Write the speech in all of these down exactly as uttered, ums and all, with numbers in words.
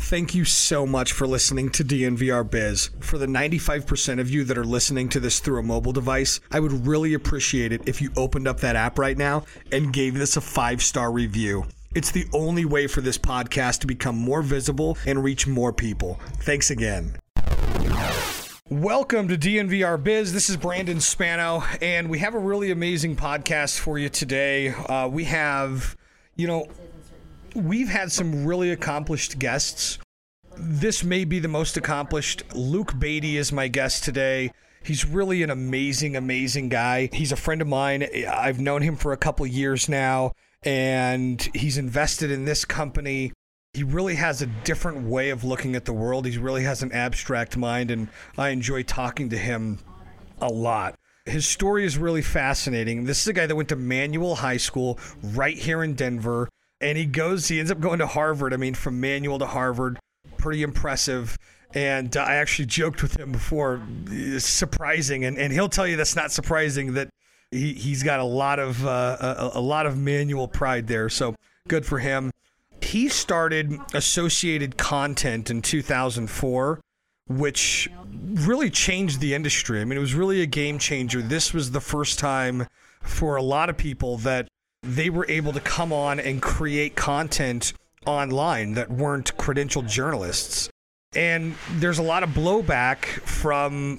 Thank you so much for listening to D N V R Biz. For the ninety-five percent of you that are listening to this through a mobile device, I would really appreciate it if you opened up that app right now and gave this a five-star review. It's the only way for this podcast to become more visible and reach more people. Thanks again. Welcome to D N V R Biz. This is Brandon Spano, and we have a really amazing podcast for you today. Uh, we have, you know, we've had some really accomplished guests. This may be the most accomplished. Luke Beatty is my guest today. He's really an amazing, amazing guy. He's a friend of mine. I've known him for a couple years now, and he's invested in this company. He really has a different way of looking at the world. He really has an abstract mind, and I enjoy talking to him a lot. His story is really fascinating. This is a guy that went to Manual High School right here in Denver, and he goes, he ends up going to Harvard. I mean, from Manual to Harvard, pretty impressive. And uh, I actually joked with him before, it's surprising, and, and he'll tell you that's not surprising, that he, he's got a lot of uh, a, a lot of Manual pride there. So good for him. He started Associated Content in two thousand four, which really changed the industry. I mean, it was really a game changer. This was the first time for a lot of people that they were able to come on and create content online that weren't credentialed journalists. And there's a lot of blowback from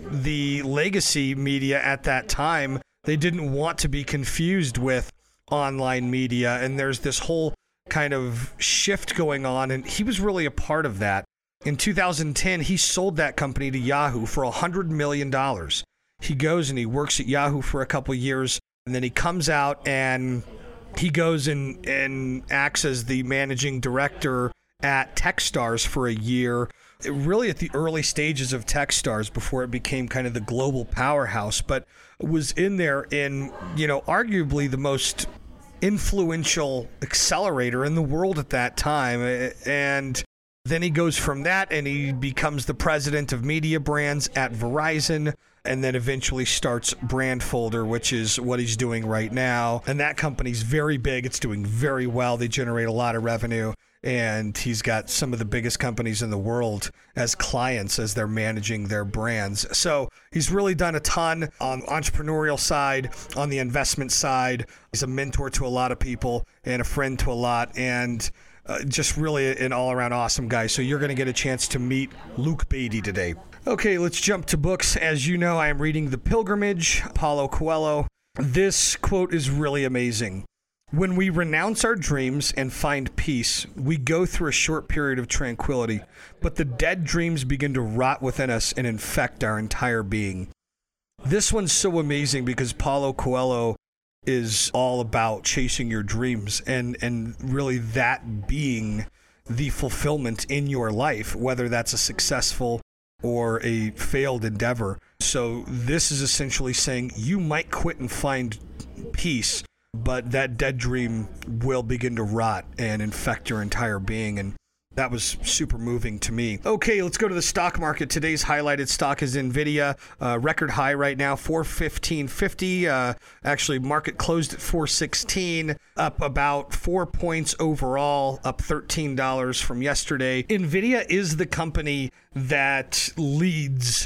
the legacy media at that time. They didn't want to be confused with online media, and there's this whole kind of shift going on, and he was really a part of that. In two thousand ten, he sold that company to Yahoo for one hundred million dollars. He goes and he works at Yahoo for a couple years, and then he comes out and he goes and, and acts as the managing director at Techstars for a year, really at the early stages of Techstars before it became kind of the global powerhouse, but was in there in, you know, arguably the most influential accelerator in the world at that time. And then he goes from that and he becomes the president of media brands at Verizon, and then eventually starts Brandfolder, which is what he's doing right now. And that company's very big. It's doing very well. They generate a lot of revenue. And he's got some of the biggest companies in the world as clients as they're managing their brands. So he's really done a ton on the entrepreneurial side, on the investment side. He's a mentor to a lot of people and a friend to a lot, and uh, just really an all-around awesome guy. So you're going to get a chance to meet Luke Beatty today. Okay, let's jump to books. As you know, I am reading The Pilgrimage, Paulo Coelho. This quote is really amazing. When we renounce our dreams and find peace, we go through a short period of tranquility, but the dead dreams begin to rot within us and infect our entire being. This one's so amazing because Paulo Coelho is all about chasing your dreams and, and really that being the fulfillment in your life, whether that's a successful or a failed endeavor. So this is essentially saying you might quit and find peace, but that dead dream will begin to rot and infect your entire being. And that was super moving to me. Okay, let's go to the stock market. Today's highlighted stock is NVIDIA. Uh, record high right now, four fifteen fifty. Uh, actually, market closed at four sixteen, up about four points overall, up thirteen dollars from yesterday. NVIDIA is the company that leads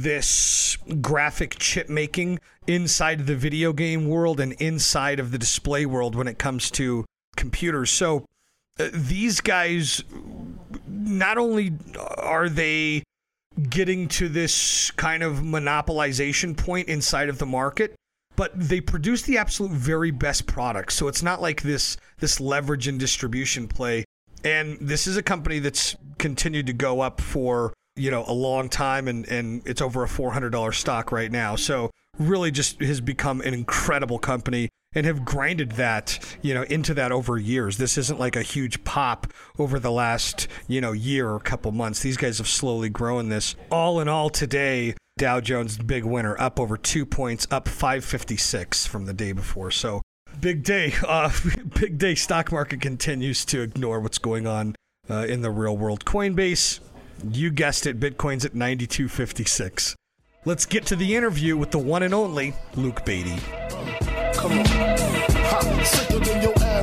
this graphic chip making inside the video game world and inside of the display world when it comes to computers. So uh, these guys, not only are they getting to this kind of monopolization point inside of the market, but they produce the absolute very best products. So it's not like this this leverage and distribution play. And this is a company that's continued to go up for, you know, a long time, and, and it's over a four hundred dollars stock right now. So really just has become an incredible company and have grinded that, you know, into that over years. This isn't like a huge pop over the last, you know, year or couple months. These guys have slowly grown this. All in all today, Dow Jones, big winner, up over two points, up five fifty-six from the day before. So big day. Uh, big day. Stock market continues to ignore what's going on uh, in the real world. Coinbase, you guessed it, Bitcoin's at ninety-two fifty-six. Let's get to the interview with the one and only Luke Beatty. Come on. Ha, sicker than your average.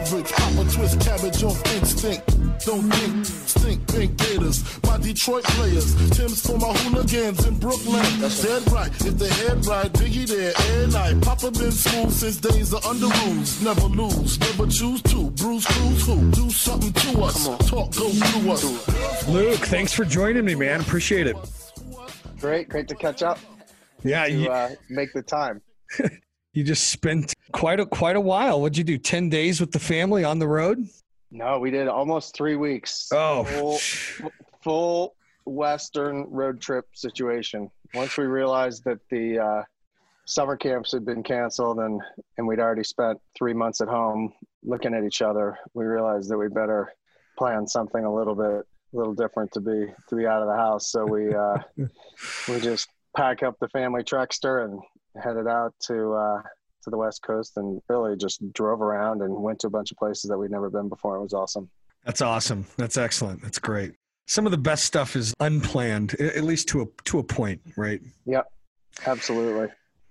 Mavericks, pop a twist cabbage off instinct. Don't think, stink, pink gators. My Detroit players, Tim's for my hooligans in Brooklyn. That's dead right, if the head right, Biggie there, air night. Papa been smooth since days of under rules. Never lose, never choose to. Bruce Cruz who? Do something to us. Talk, go through us. Luke, thanks for joining me, man. Appreciate it. Great, great to catch up. Yeah, to you, uh, make the time. You just spent quite a quite a while. What'd you do? Ten days with the family on the road? No, we did almost three weeks. Oh, full, full Western road trip situation. Once we realized that the uh, summer camps had been canceled and and we'd already spent three months at home looking at each other, we realized that we better plan something a little bit a little different to be to be out of the house. So we uh, we just pack up the family Trexter and headed out to uh, to the West Coast and really just drove around and went to a bunch of places that we'd never been before. It was awesome. That's awesome. That's excellent. That's great. Some of the best stuff is unplanned, at least to a to a point, right? Yep, absolutely.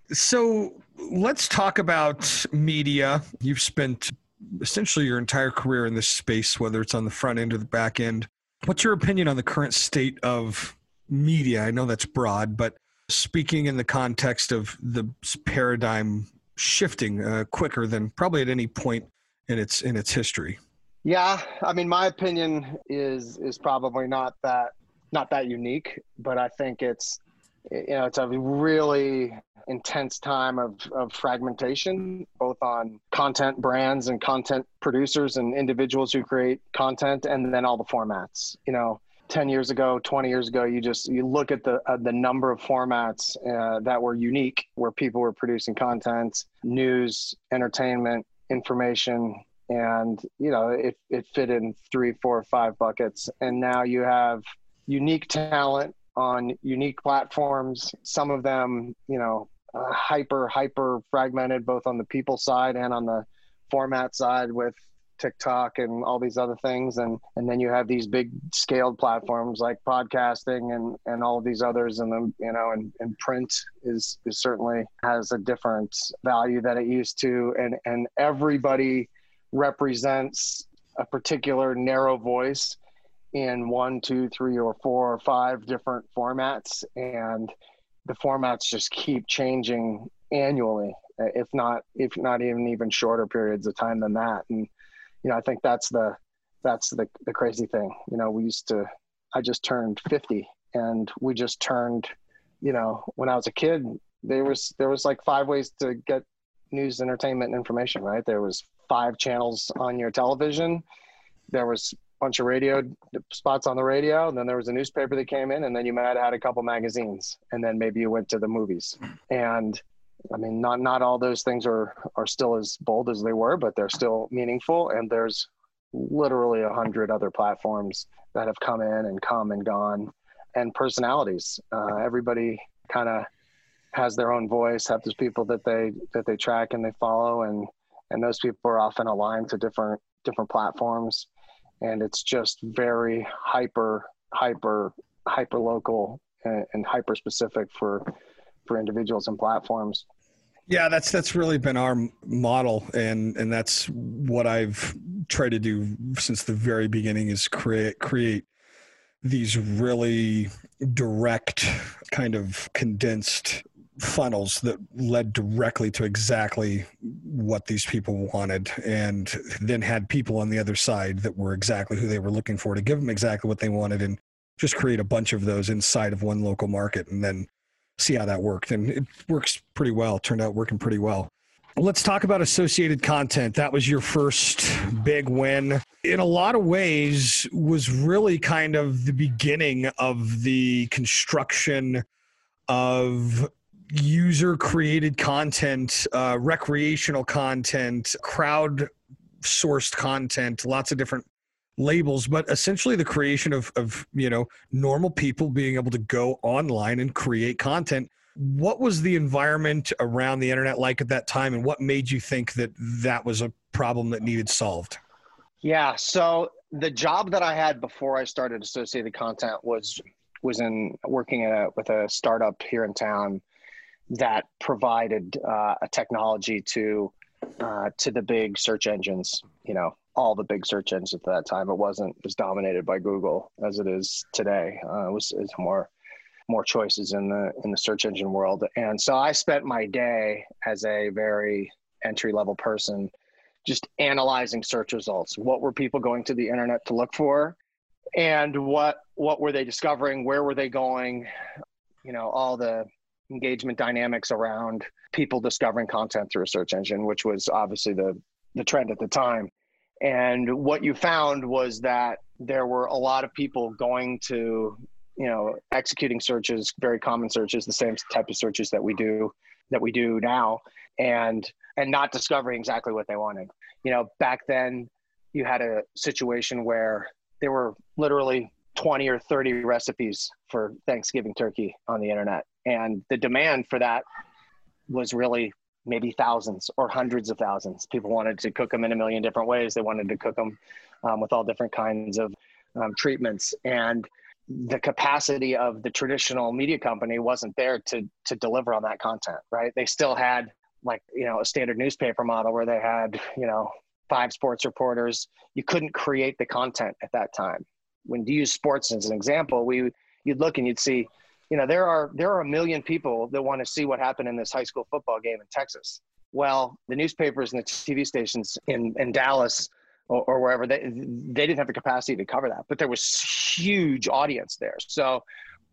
So let's talk about media. You've spent essentially your entire career in this space, whether it's on the front end or the back end. What's your opinion on the current state of media? I know that's broad, but speaking in the context of the paradigm shifting uh, quicker than probably at any point in its in its history. Yeah, I mean, my opinion is is probably not that not that unique, but I think it's you know it's a really intense time of of fragmentation, both on content brands and content producers and individuals who create content, and then all the formats. You know, ten years ago, twenty years ago, you just, you look at the uh, the number of formats uh, that were unique, where people were producing content, news, entertainment, information, and, you know, it, it fit in three, four, five buckets. And now you have unique talent on unique platforms, some of them, you know, uh, hyper, hyper fragmented, both on the people side and on the format side with TikTok and all these other things. And, and then you have these big scaled platforms like podcasting and, and all of these others. And then, you know, and, and print is, is certainly has a different value that it used to. And, and everybody represents a particular narrow voice in one, two, three, or four or five different formats. And the formats just keep changing annually, if not, if not even even shorter periods of time than that. And, you know, I think that's the, that's the, the crazy thing. You know, we used to, I just turned fifty and we just turned, you know, when I was a kid, there was, there was like five ways to get news, entertainment, and information, right? There was five channels on your television. There was a bunch of radio spots on the radio. And then there was a newspaper that came in, and then you might have had a couple magazines, and then maybe you went to the movies. And I mean, not, not all those things are, are still as bold as they were, but they're still meaningful. And there's literally a hundred other platforms that have come in and come and gone, and personalities. Uh, everybody kind of has their own voice, have those people that they, that they track and they follow. And, and those people are often aligned to different, different platforms. And it's just very hyper, hyper, hyper local and, and hyper specific for, for individuals and platforms. Yeah, that's that's really been our model, and and that's what I've tried to do since the very beginning, is create create these really direct, kind of condensed funnels that led directly to exactly what these people wanted, and then had people on the other side that were exactly who they were looking for to give them exactly what they wanted, and just create a bunch of those inside of one local market, and then see how that worked. And it works pretty well. It turned out working pretty well. Let's talk about associated content. That was your first big win. In a lot of ways, was really kind of the beginning of the construction of user-created content, uh, recreational content, crowd-sourced content, lots of different labels, but essentially the creation of, of, you know, normal people being able to go online and create content. What was the environment around the internet like at that time, and what made you think that that was a problem that needed solved? Yeah. So the job that I had before I started Associated Content was, was in working at a, with a startup here in town that provided uh, a technology to uh, to the big search engines, you know, all the big search engines at that time. It wasn't as dominated by Google as it is today. Uh, it was, it was more, more choices in the, in the search engine world. And so I spent my day as a very entry level person, just analyzing search results. What were people going to the internet to look for? And what, what were they discovering? Where were they going? You know, all the engagement dynamics around people discovering content through a search engine, which was obviously the, the trend at the time. And what you found was that there were a lot of people going to, you know, executing searches, very common searches, the same type of searches that we do, that we do now, and, and not discovering exactly what they wanted. You know, back then you had a situation where there were literally twenty or thirty recipes for Thanksgiving turkey on the internet. And the demand for that was really maybe thousands or hundreds of thousands. People wanted to cook them in a million different ways. They wanted to cook them um, with all different kinds of um, treatments. And the capacity of the traditional media company wasn't there to to deliver on that content, right? They still had like, you know, a standard newspaper model where they had, you know, five sports reporters. You couldn't create the content at that time. When you use sports as an example, we you'd look and you'd see, you know, there are there are a million people that want to see what happened in this high school football game in Texas. Well, the newspapers and the T V stations in, in Dallas or, or wherever, they they didn't have the capacity to cover that, but there was huge audience there. So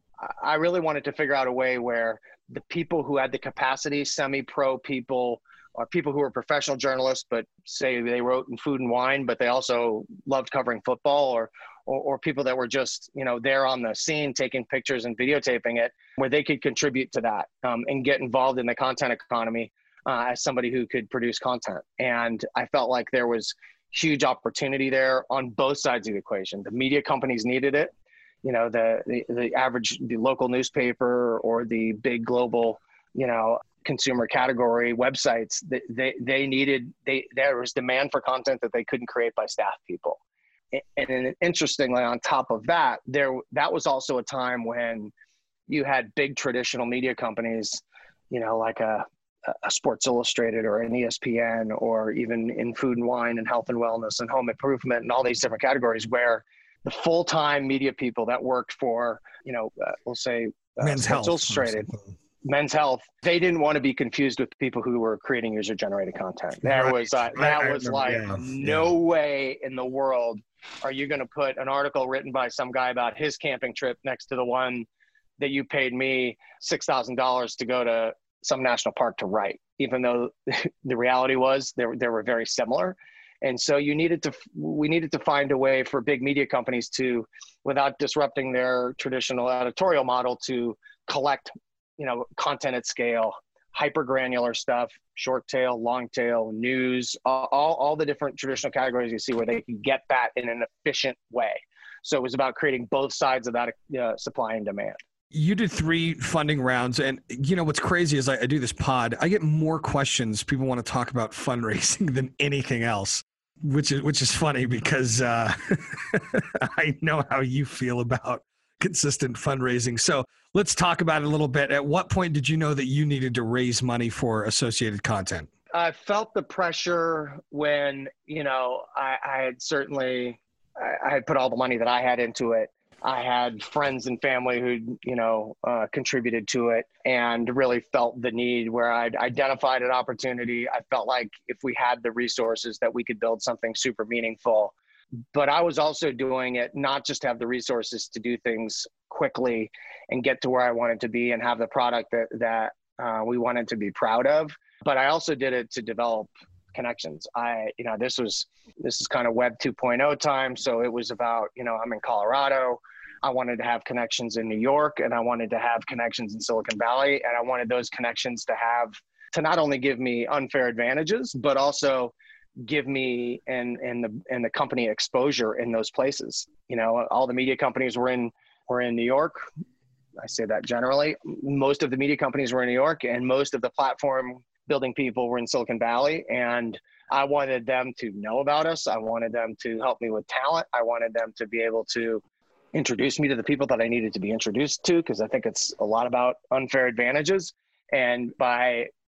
I really wanted to figure out a way where the people who had the capacity, semi-pro people, or people who were professional journalists, but say they wrote in food and wine, but they also loved covering football, or, or, or people that were just, you know, there on the scene, taking pictures and videotaping it, where they could contribute to that um, and get involved in the content economy uh, as somebody who could produce content. And I felt like there was huge opportunity there on both sides of the equation. The media companies needed it. You know, the, the, the average, the local newspaper or the big global, you know, consumer category websites, they, they, they needed, they, there was demand for content that they couldn't create by staff people. And then interestingly, on top of that, there, that was also a time when you had big traditional media companies, you know, like a, a Sports Illustrated or an E S P N, or even in food and wine and health and wellness and home improvement and all these different categories, where the full-time media people that worked for, you know, uh, we'll say uh, Men's Sports Health, Illustrated, Men's Health, they didn't want to be confused with people who were creating user-generated content. There Right. was uh, that I, I was remember, like yeah, no yeah. way in the world are you going to put an article written by some guy about his camping trip next to the one that you paid me six thousand dollars to go to some national park to write, even though the reality was they, they were very similar. And so you needed to, we needed to find a way for big media companies to, without disrupting their traditional editorial model, to collect, you know, content at scale, hyper granular stuff, short tail, long tail, news, all, all the different traditional categories you see where they can get that in an efficient way. So it was about creating both sides of that uh, supply and demand. You did three funding rounds, and you know what's crazy is I, I do this pod. I get more questions. People want to talk about fundraising than anything else, which is which is funny because uh, I know how you feel about consistent fundraising. So let's talk about it a little bit. At what point did you know that you needed to raise money for associated content? I felt the pressure when, you know, I, I had certainly, I, I had put all the money that I had into it. I had friends and family who, you know, uh, contributed to it, and really felt the need where I'd identified an opportunity. I felt like if we had the resources that we could build something super meaningful. But I was also doing it not just to have the resources to do things quickly and get to where I wanted to be and have the product that, that uh, we wanted to be proud of, but I also did it to develop connections. I, you know, this was, this is kind of web two point oh time. So it was about, you know, I'm in Colorado. I wanted to have connections in New York, and I wanted to have connections in Silicon Valley. And I wanted those connections to have, to not only give me unfair advantages, but also give me and, and the, and the company exposure in those places. You know, all the media companies were in, were in New York. I say that generally. Most of the media companies were in New York, and most of the platform building people were in Silicon Valley. And I wanted them to know about us. I wanted them to help me with talent. I wanted them to be able to introduce me to the people that I needed to be introduced to, because I think it's a lot about unfair advantages. And by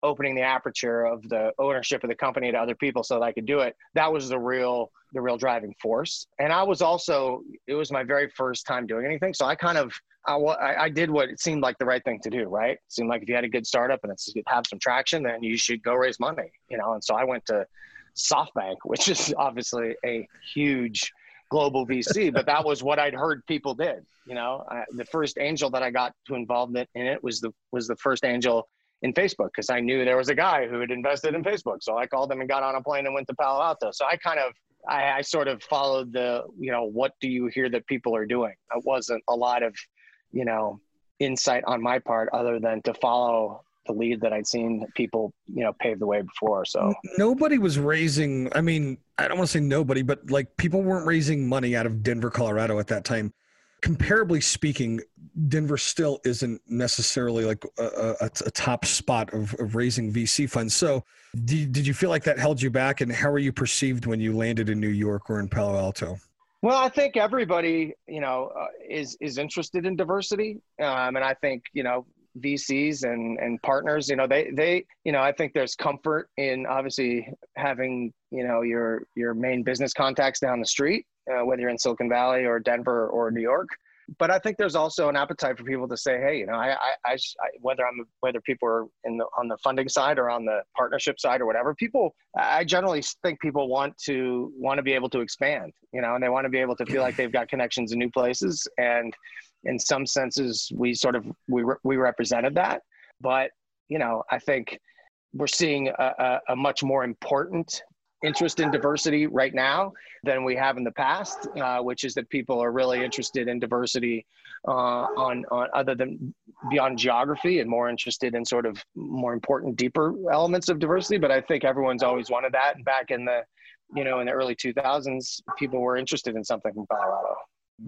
opening the aperture of the ownership of the company to other people so that I could do it. That was the real, the real driving force. And I was also, it was my very first time doing anything. So I kind of, I, I did what it seemed like the right thing to do, right? It seemed like if you had a good startup and it's have some traction, then you should go raise money, you know? And so I went to SoftBank, which is obviously a huge global V C, but that was what I'd heard people did. You know, I, the first angel that I got to involved in it was the was the first angel in Facebook, because I knew there was a guy who had invested in Facebook. So I called him and got on a plane and went to Palo Alto. So I kind of I, I sort of followed the, you know, what do you hear that people are doing? It wasn't a lot of, you know, insight on my part other than to follow the lead that I'd seen people, you know, pave the way before. So nobody was raising, I mean, I don't want to say nobody, but like people weren't raising money out of Denver, Colorado at that time. Comparably speaking, Denver still isn't necessarily like a, a, a top spot of, of raising V C funds. So did, did you feel like that held you back, and how were you perceived when you landed in New York or in Palo Alto? Well, I think everybody, you know, uh, is, is interested in diversity. Um, and I think, you know, V Cs and, and partners, you know, they, they, you know, I think there's comfort in obviously having, you know, your, your main business contacts down the street, uh, whether you're in Silicon Valley or Denver or New York. But I think there's also an appetite for people to say, hey, you know, I, I, I, I whether I'm, whether people are in the, on the funding side or on the partnership side or whatever, people, I generally think people want to, want to be able to expand, you know, and they want to be able to feel like they've got connections in new places. And in some senses, we sort of, we, re- we represented that. But, you know, I think we're seeing a, a, a much more important interest in diversity right now than we have in the past, uh, which is that people are really interested in diversity uh, on, on other than beyond geography, and more interested in sort of more important, deeper elements of diversity. But I think everyone's always wanted that. And back in the, you know, in the early two thousands, people were interested in something from Colorado.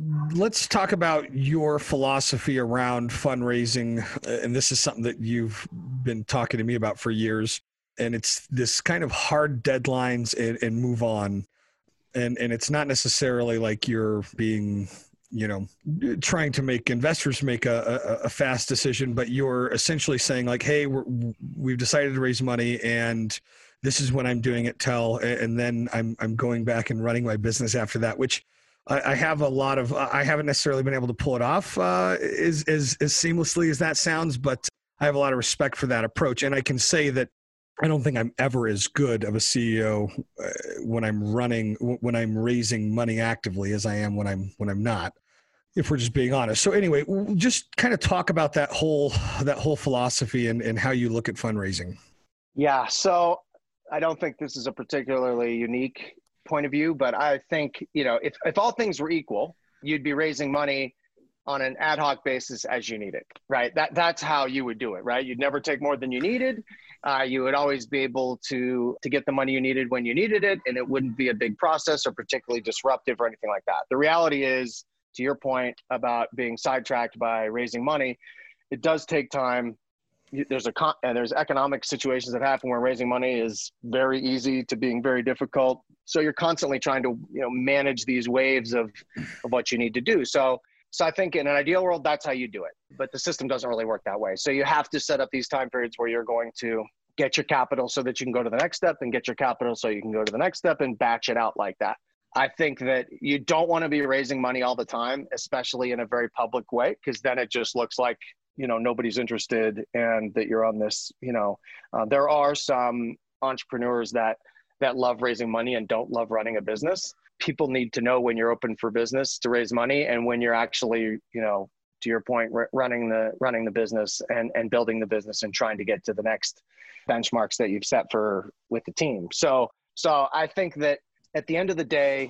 Let's talk about your philosophy around fundraising. And this is something that you've been talking to me about for years. And it's this kind of hard deadlines and, and move on. And, and it's not necessarily like you're being, you know, trying to make investors make a, a, a fast decision, but you're essentially saying like, hey, we're, we've decided to raise money and this is when I'm doing it till, and then I'm, I'm going back and running my business after that, which I have a lot of, I haven't necessarily been able to pull it off uh, as, as, as seamlessly as that sounds, but I have a lot of respect for that approach. And I can say that I don't think I'm ever as good of a C E O uh, when I'm running, when I'm raising money actively as I am when I'm, when I'm not, if we're just being honest. So anyway, we'll just kind of talk about that whole, that whole philosophy and, and how you look at fundraising. Yeah. So I don't think this is a particularly unique point of view, but I think, you know, if, if all things were equal, you'd be raising money on an ad hoc basis as you need it, right? That that's how you would do it, right? You'd never take more than you needed. Uh, you would always be able to, to get the money you needed when you needed it, and it wouldn't be a big process or particularly disruptive or anything like that. The reality is, to your point about being sidetracked by raising money, it does take time. There's a con- and there's economic situations that happen where raising money is very easy to being very difficult. So you're constantly trying to, you know, manage these waves of, of what you need to do. So, so I think in an ideal world, that's how you do it. But the system doesn't really work that way. So you have to set up these time periods where you're going to get your capital so that you can go to the next step, and get your capital so you can go to the next step, and batch it out like that. I think that you don't want to be raising money all the time, especially in a very public way, because then it just looks like, you know, nobody's interested and that you're on this, you know, uh, there are some entrepreneurs that, that love raising money and don't love running a business. People need to know when you're open for business to raise money, and when you're actually, you know, to your point, r- running the, running the business and, and building the business and trying to get to the next benchmarks that you've set for with the team. So, so I think that at the end of the day,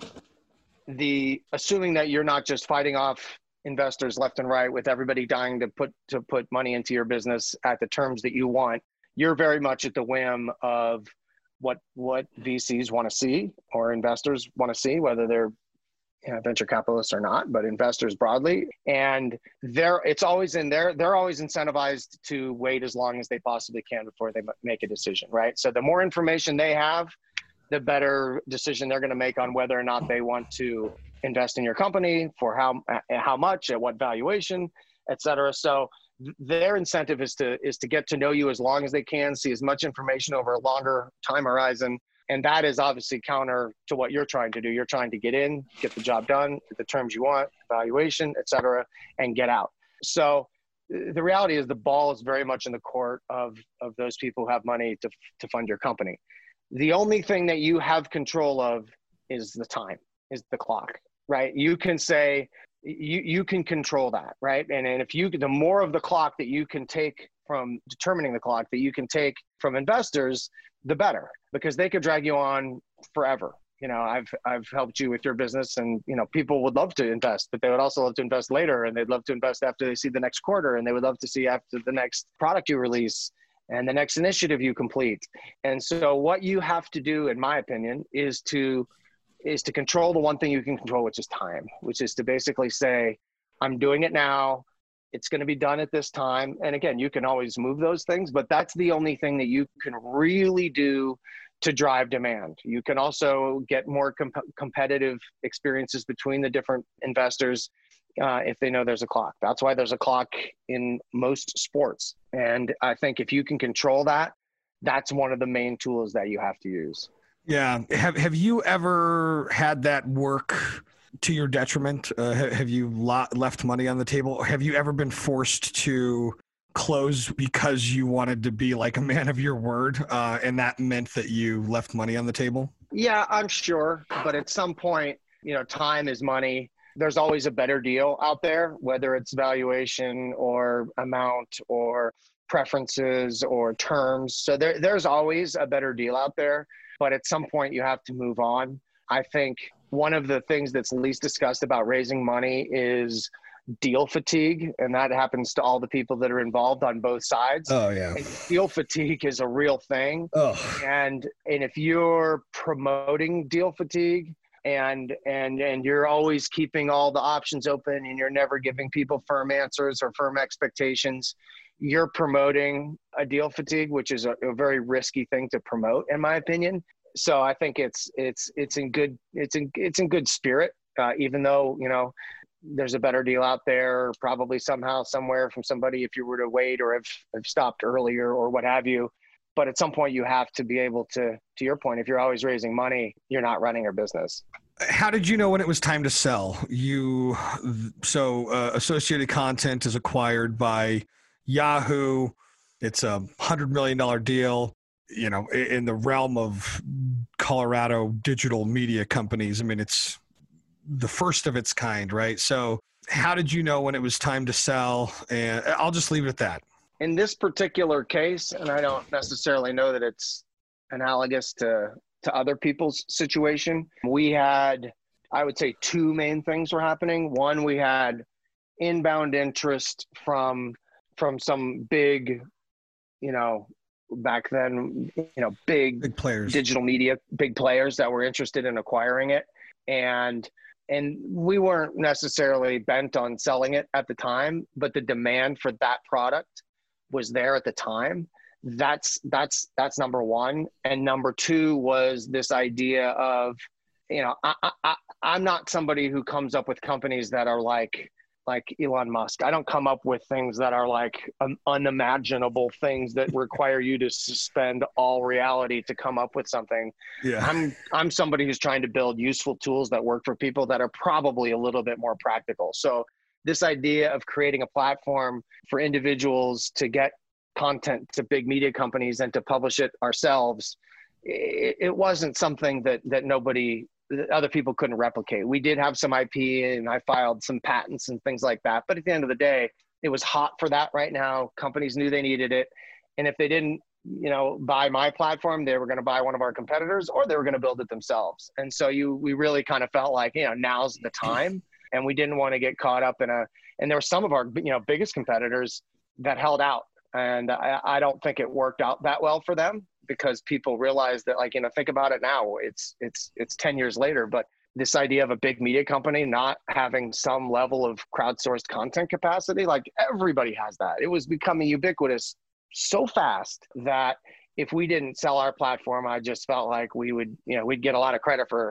the, assuming that you're not just fighting off investors left and right with everybody dying to put to put money into your business at the terms that you want, you're very much at the whim of what what V Cs want to see, or investors want to see, whether they're, you know, venture capitalists or not, but investors broadly. And they're it's always in there. They're always incentivized to wait as long as they possibly can before they make a decision, right? So the more information they have, the better decision they're going to make on whether or not they want to invest in your company, for how how much, at what valuation, et cetera. So their incentive is to is to get to know you as long as they can, see as much information over a longer time horizon. And that is obviously counter to what you're trying to do. You're trying to get in, get the job done, get the terms you want, valuation, et cetera, and get out. So the reality is the ball is very much in the court of, of those people who have money to, to fund your company. The only thing that you have control of is the time, is the clock, right? You can say, you, you can control that, right? And, and if you, the more of the clock that you can take from determining the clock that you can take from investors, the better, because they could drag you on forever. You know, I've, I've helped you with your business, and, you know, people would love to invest, but they would also love to invest later, and they'd love to invest after they see the next quarter, and they would love to see after the next product you release and the next initiative you complete. And so what you have to do, in my opinion, is to, is to control the one thing you can control, which is time, which is to basically say, I'm doing it now. It's going to be done at this time. And again, you can always move those things, but that's the only thing that you can really do to drive demand. You can also get more comp- competitive experiences between the different investors uh, if they know there's a clock. That's why there's a clock in most sports. And I think if you can control that, that's one of the main tools that you have to use. Yeah. Have Have you ever had that work to your detriment? Uh, have you lo- left money on the table? Have you ever been forced to close because you wanted to be like a man of your word, uh, and that meant that you left money on the table? Yeah, I'm sure. But at some point, you know, time is money. There's always a better deal out there, whether it's valuation or amount or preferences or terms. So there, there's always a better deal out there. But at some point, you have to move on. I think one of the things that's least discussed about raising money is deal fatigue, and that happens to all the people that are involved on both sides. Oh yeah. And deal fatigue is a real thing. Oh. And and if you're promoting deal fatigue and and and you're always keeping all the options open and you're never giving people firm answers or firm expectations, you're promoting a deal fatigue, which is a, a very risky thing to promote, in my opinion. So I think it's it's it's in good it's in it's in good spirit, uh, even though, you know, there's a better deal out there, probably somehow, somewhere from somebody if you were to wait or have, have stopped earlier or what have you. But at some point you have to be able to, to your point, if you're always raising money, you're not running your business. How did you know when it was time to sell? You, so uh, Associated Content is acquired by Yahoo. It's a hundred million dollar deal, you know, in the realm of Colorado digital media companies. I mean, it's the first of its kind, right? So how did you know when it was time to sell? And I'll just leave it at that. In this particular case, and I don't necessarily know that it's analogous to, to other people's situation, we had, I would say, two main things were happening. One, we had inbound interest from, from some big, you know, back then, you know, big, big players, digital media, big players that were interested in acquiring it. And And we weren't necessarily bent on selling it at the time, but the demand for that product was there at the time. That's, that's, that's number one. And number two was this idea of, you know, I, I, I'm not somebody who comes up with companies that are like, like Elon Musk. I don't come up with things that are like um, unimaginable things that require you to suspend all reality to come up with something. Yeah. I'm, I'm somebody who's trying to build useful tools that work for people that are probably a little bit more practical. So this idea of creating a platform for individuals to get content to big media companies and to publish it ourselves, it, it wasn't something that, that nobody, that other people couldn't replicate. We did have some I P and I filed some patents and things like that. But at the end of the day, it was hot for that right now. Companies knew they needed it. And if they didn't, you know, buy my platform, they were going to buy one of our competitors or they were going to build it themselves. And so you, we really kind of felt like, you know, now's the time. And we didn't want to get caught up in a, and there were some of our, you know, biggest competitors that held out. And I, I don't think it worked out that well for them, because people realized that, like, you know, think about it now, it's, it's, it's ten years later, but this idea of a big media company not having some level of crowdsourced content capacity, like everybody has that. It was becoming ubiquitous so fast that if we didn't sell our platform, I just felt like we would, you know, we'd get a lot of credit for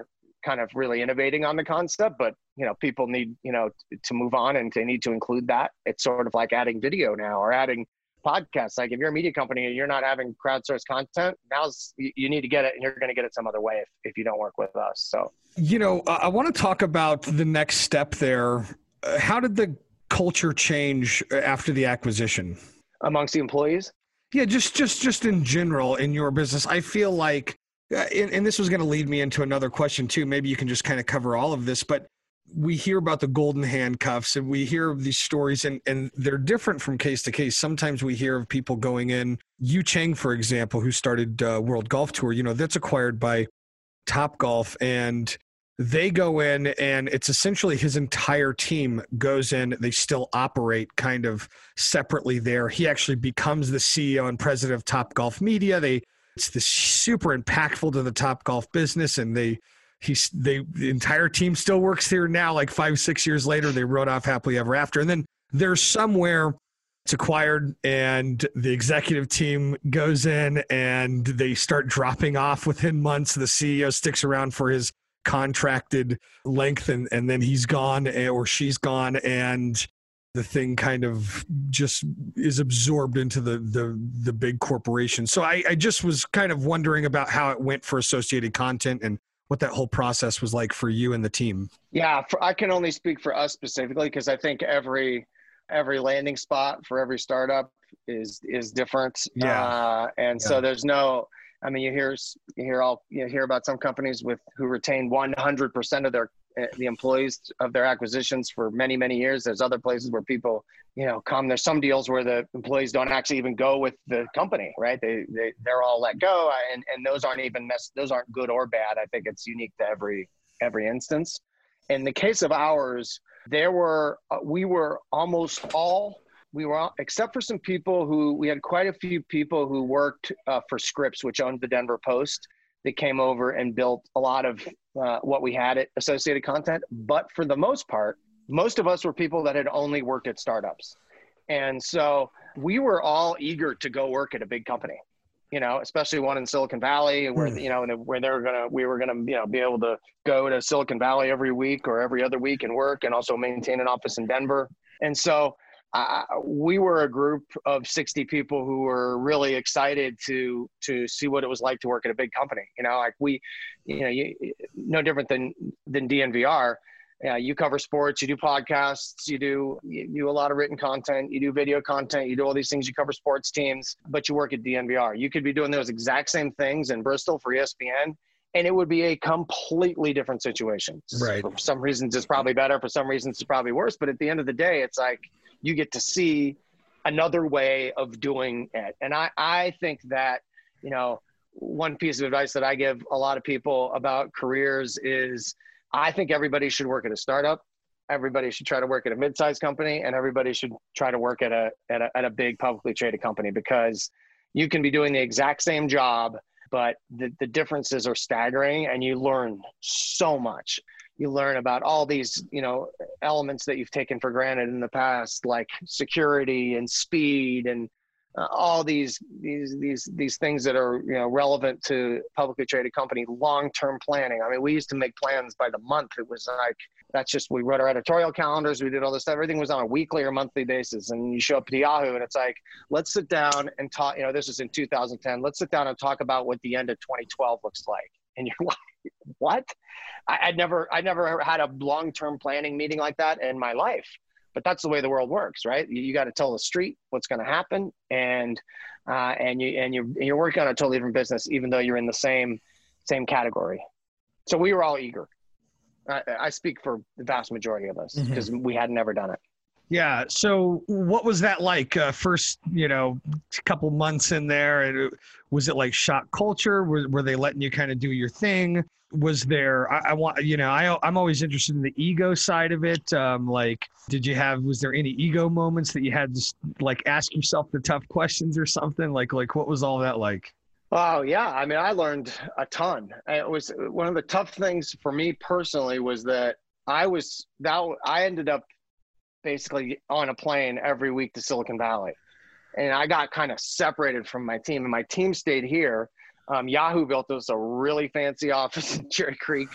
kind of really innovating on the concept, but you know, people need, you know, t- to move on, and they need to include that. It's sort of like adding video now, or adding podcasts. Like if you're a media company and you're not having crowdsourced content, now's you, you need to get it, and you're going to get it some other way if, if you don't work with us. So, you know, I, I want to talk about the next step there. Uh, how did the culture change after the acquisition amongst the employees? Yeah, just just just in general in your business. I feel like, uh, and, and this was going to lead me into another question too. Maybe you can just kind of cover all of this, but we hear about the golden handcuffs, and we hear of these stories, and, and they're different from case to case. Sometimes we hear of people going in. Yu Chang, for example, who started uh, World Golf Tour, you know, that's acquired by Topgolf, and they go in, and it's essentially his entire team goes in. They still operate kind of separately there. He actually becomes the C E O and president of Topgolf Media. They it's this super impactful to the Topgolf business, and they he's they the entire team still works here now. Like five six years later, they wrote off happily ever after. And then there's somewhere it's acquired, and the executive team goes in, and they start dropping off within months. The C E O sticks around for his contracted length, and, and then he's gone, or she's gone, and the thing kind of just is absorbed into the the, the big corporation. So I, I just was kind of wondering about how it went for Associated Content and what that whole process was like for you and the team. Yeah, for, I can only speak for us specifically, because I think every every landing spot for every startup is is different. Yeah, uh, and yeah. so there's no. I mean, you hear you hear all you hear about some companies with who retain one hundred percent of their the employees of their acquisitions for many many years. There's other places where people, you know, come. There's some deals where the employees don't actually even go with the company, right? They they they're all let go, and and those aren't even mess, those aren't good or bad. I think it's unique to every every instance. In the case of ours, there were uh, we were almost all. We were, except for some people who, we had quite a few people who worked uh, for Scripps, which owned the Denver Post, that came over and built a lot of uh, what we had at Associated Content. But for the most part, most of us were people that had only worked at startups. And so we were all eager to go work at a big company, you know, especially one in Silicon Valley where, mm. you know, where they were going to, we were going to, you know, be able to go to Silicon Valley every week or every other week and work, and also maintain an office in Denver. And so Uh, we were a group of sixty people who were really excited to to see what it was like to work at a big company. You know, like we, you know, you, no different than than D N V R. Yeah, you cover sports, you do podcasts, you do you do a lot of written content, you do video content, you do all these things. You cover sports teams, but you work at D N V R. You could be doing those exact same things in Bristol for E S P N, and it would be a completely different situation. Right. For some reasons, it's probably better. For some reasons, it's probably worse. But at the end of the day, it's like you get to see another way of doing it. And I, I think that, you know, one piece of advice that I give a lot of people about careers is I think everybody should work at a startup. Everybody should try to work at a mid-sized company, and everybody should try to work at a, at a, at a big publicly traded company, because you can be doing the exact same job, but the, the differences are staggering, and you learn so much. You learn about all these, you know, elements that you've taken for granted in the past, like security and speed and uh, all these, these, these, these things that are, you know, relevant to publicly traded company, long-term planning. I mean, we used to make plans by the month. It was like, that's just, we wrote our editorial calendars. We did all this stuff. Everything was on a weekly or monthly basis. And you show up to Yahoo and it's like, let's sit down and talk, you know, this is in two thousand ten. Let's sit down and talk about what the end of twenty twelve looks like. And you're like, what? I, I'd never, I never had a long-term planning meeting like that in my life, but that's the way the world works, right? You, you got to tell the street what's going to happen. And, uh, and you, and you're, you're working on a totally different business, even though you're in the same, same category. So we were all eager. I, I speak for the vast majority of us, because mm-hmm. we had never done it. Yeah. So what was that like? Uh, first, you know, couple months in there, and was it like shock culture? Were, were they letting you kind of do your thing? Was there, I, I want, you know, I, I'm always interested in the ego side of it. Um, like, did you have, was there any ego moments that you had to like ask yourself the tough questions or something? Like, like what was all that like? Oh yeah. I mean, I learned a ton. It was one of the tough things for me personally was that I was, that I ended up basically on a plane every week to Silicon Valley. And I got kind of separated from my team, and my team stayed here. Um, Yahoo built us a really fancy office in Cherry Creek,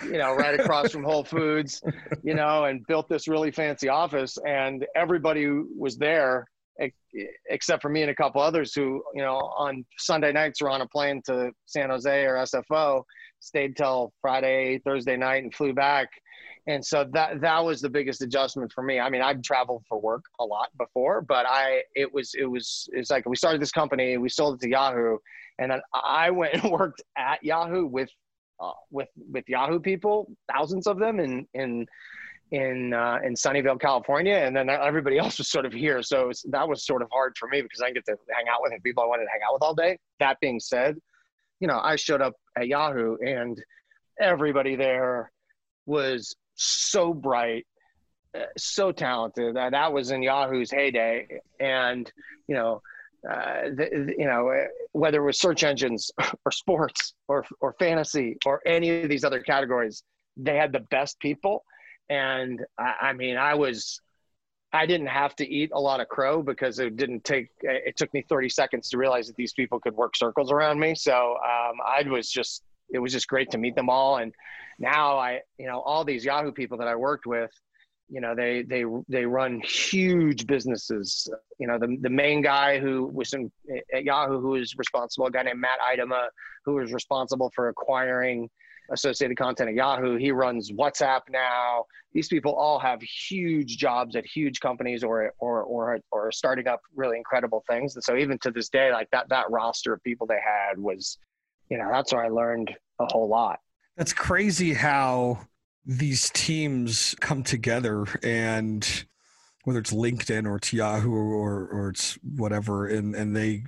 you know, right across from Whole Foods, you know, and built this really fancy office, and everybody was there except for me and a couple others who, you know, on Sunday nights were on a plane to San Jose or S F O, stayed till Friday, Thursday night and flew back. And so that, that was the biggest adjustment for me. I mean, I've traveled for work a lot before, but I, it was, it was, it's like we started this company, we sold it to Yahoo, and then I went and worked at Yahoo with, uh, with, with Yahoo people, thousands of them in, in, in, uh, in Sunnyvale, California. And then everybody else was sort of here. So was, that was sort of hard for me because I didn't get to hang out with people I wanted to hang out with all day. That being said, you know, I showed up at Yahoo and everybody there was so bright, uh, so talented. Uh, that was in Yahoo's heyday. And, you know, uh, the, the, you know, whether it was search engines or sports or, or fantasy or any of these other categories, they had the best people. And I, I mean, I was, I didn't have to eat a lot of crow because it didn't take, it took me thirty seconds to realize that these people could work circles around me. So um, I was just, it was just great to meet them all. And now I, you know, all these Yahoo people that I worked with, you know, they, they, they run huge businesses. You know, the, the main guy who was in, at Yahoo, who was responsible, a guy named Matt Idema, who was responsible for acquiring associated content at Yahoo. He runs WhatsApp now. These people all have huge jobs at huge companies or, or, or, or starting up really incredible things. And so even to this day, like that, that roster of people they had was, you know, that's where I learned a whole lot. That's crazy how these teams come together, and whether it's LinkedIn or it's Yahoo or, or it's whatever, and, and they,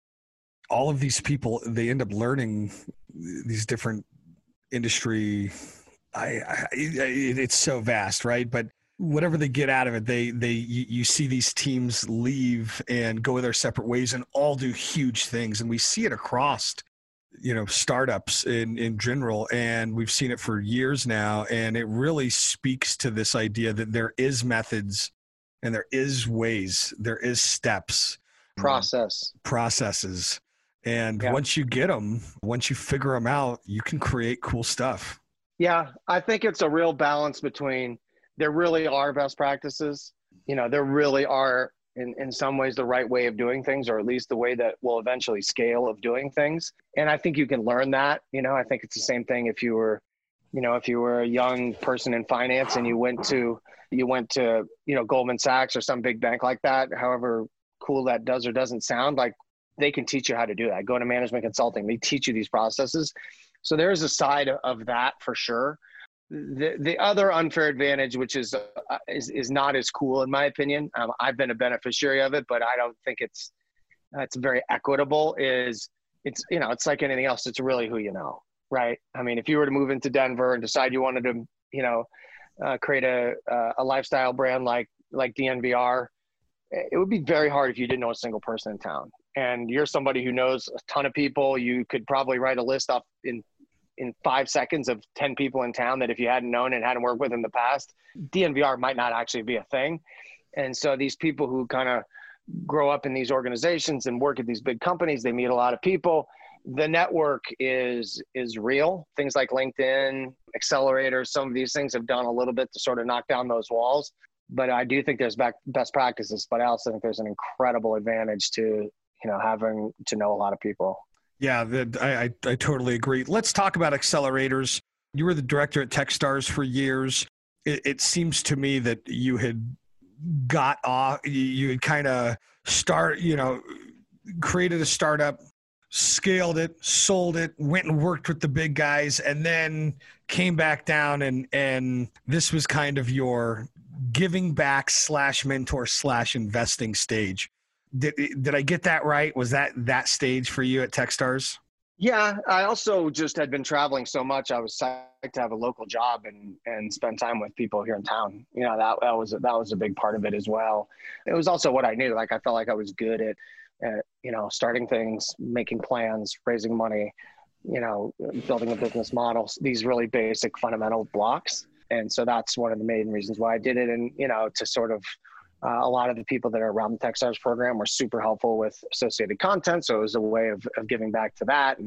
all of these people, they end up learning these different industry. I, I it's so vast, right? But whatever they get out of it, they they you, you see these teams leave and go their separate ways and all do huge things, and we see it across, you know, startups in in general, and we've seen it for years now. And it really speaks to this idea that there is methods and there is ways, there is steps, process, processes. And yeah. once you get them, once you figure them out, you can create cool stuff. Yeah, I think it's a real balance between, there really are best practices. You know, there really are, in, in some ways, the right way of doing things, or at least the way that will eventually scale of doing things. And I think you can learn that. You know, I think it's the same thing if you were, you know, if you were a young person in finance and you went to, you went to, you know, Goldman Sachs or some big bank like that, however cool that does or doesn't sound, like, they can teach you how to do that. Go to management consulting. They teach you these processes. So there is a side of that for sure. The the other unfair advantage, which is uh, is, is not as cool in my opinion. Um, I've been a beneficiary of it, but I don't think it's it's very equitable. Is it's you know it's like anything else. It's really who you know, right? I mean, if you were to move into Denver and decide you wanted to, you know, uh, create a a lifestyle brand like like D N V R, it would be very hard if you didn't know a single person in town. And you're somebody who knows a ton of people. You could probably write a list up in, in five seconds of ten people in town that if you hadn't known and hadn't worked with in the past, D N V R might not actually be a thing. And so these people who kind of grow up in these organizations and work at these big companies, they meet a lot of people. The network is, is real. Things like LinkedIn, accelerators, some of these things have done a little bit to sort of knock down those walls. But I do think there's back, best practices, but I also think there's an incredible advantage to, you know, having to know a lot of people. Yeah, the, I, I I totally agree. Let's talk about accelerators. You were the director at Techstars for years. It, it seems to me that you had got off, you, you had kind of start, you know, created a startup, scaled it, sold it, went and worked with the big guys, and then came back down and and this was kind of your giving back slash mentor slash investing stage. Did did I get that right? Was that that stage for you at Techstars? Yeah, I also just had been traveling so much. I was psyched to have a local job and and spend time with people here in town. You know, that that was that was a big part of it as well. It was also what I knew. Like I felt like I was good at, at you know, starting things, making plans, raising money, you know, building a business model. These really basic fundamental blocks. And so that's one of the main reasons why I did it. And you know, to sort of Uh, a lot of the people that are around the Techstars program were super helpful with associated content. So it was a way of, of giving back to that. And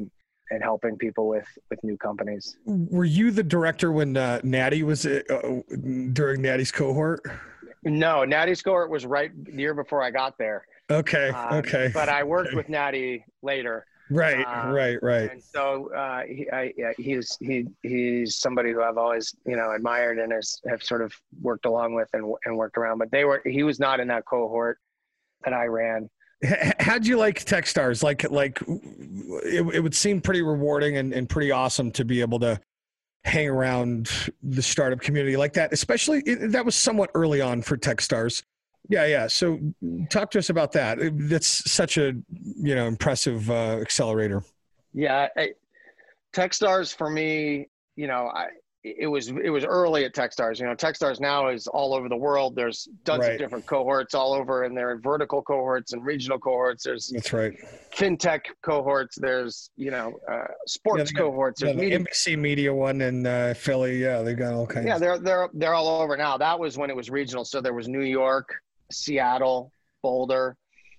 and helping people with, with new companies. Were you the director when uh, Natty was uh, during Natty's cohort? No, Natty's cohort was right the year before I got there. Okay. Um, okay. But I worked okay. with Natty later. Right. Um, right. Right. And so uh, he, I, yeah, he's he he's somebody who I've always you know admired and has have sort of worked along with and and worked around. But they were he was not in that cohort that I ran. How'd you like Techstars? Like like it, it would seem pretty rewarding and, and pretty awesome to be able to hang around the startup community like that. Especially it, that was somewhat early on for Techstars. Yeah, yeah. So talk to us about that. That's such a, you know, impressive uh, accelerator. Yeah. I, Techstars for me, you know, I, it was, it was early at Techstars. You know, Techstars now is all over the world. There's tons right. of different cohorts all over, and there are vertical cohorts and regional cohorts. There's That's right. fintech cohorts. There's, you know, uh, sports yeah, got, cohorts. Yeah, There's the media. N B C Media one in uh, Philly. Yeah, they've got all kinds. Yeah, they're, they're, they're all over now. That was when it was regional. So there was New York, Seattle, Boulder,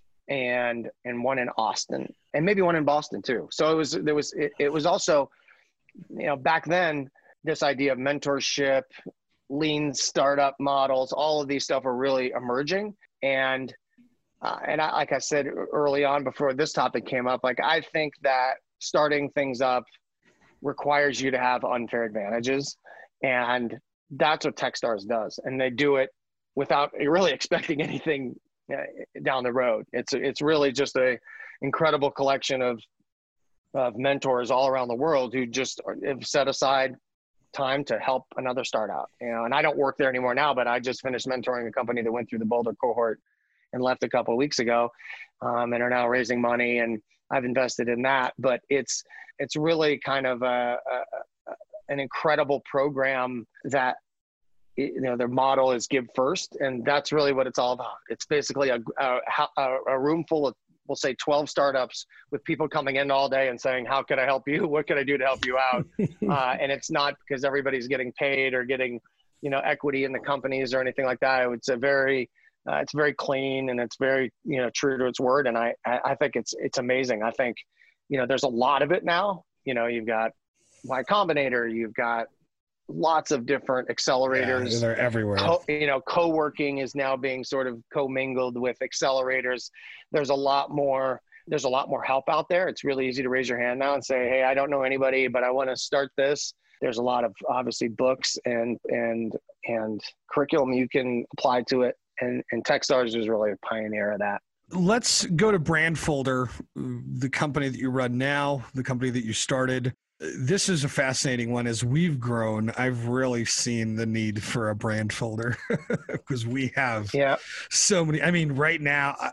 and and one in Austin, and maybe one in Boston too. So it was there was it, it was also, you know, back then this idea of mentorship, lean startup models, all of these stuff are really emerging. And uh, and I, like I said early on before this topic came up, like I think that starting things up requires you to have unfair advantages, and that's what Techstars does, and they do it without really expecting anything uh, down the road. It's it's really just a incredible collection of of mentors all around the world who just have set aside time to help another startup. You know, and I don't work there anymore now, but I just finished mentoring a company that went through the Boulder cohort and left a couple of weeks ago, um, and are now raising money, and I've invested in that. But it's it's really kind of a, a, an incredible program that, you know, their model is give first, and that's really what it's all about. It's basically a, a, a room full of, we'll say twelve startups with people coming in all day and saying, how can I help you? What can I do to help you out? uh, and it's not because everybody's getting paid or getting, you know, equity in the companies or anything like that. It's a very, uh, it's very clean, and it's very, you know, true to its word. And I, I think it's, it's amazing. I think, you know, there's a lot of it now. You know, you've got Y Combinator, you've got lots of different accelerators. Yeah, they're everywhere. Co- you know, co-working is now being sort of co-mingled with accelerators. There's a lot more, there's a lot more help out there. It's really easy to raise your hand now and say, hey, I don't know anybody, but I want to start this. There's a lot of obviously books and, and, and curriculum you can apply to it. And, and Techstars is really a pioneer of that. Let's go to Brandfolder, the company that you run now, the company that you started. This is a fascinating one. As we've grown, I've really seen the need for a Brandfolder because we have yeah. so many. I mean, right now, I,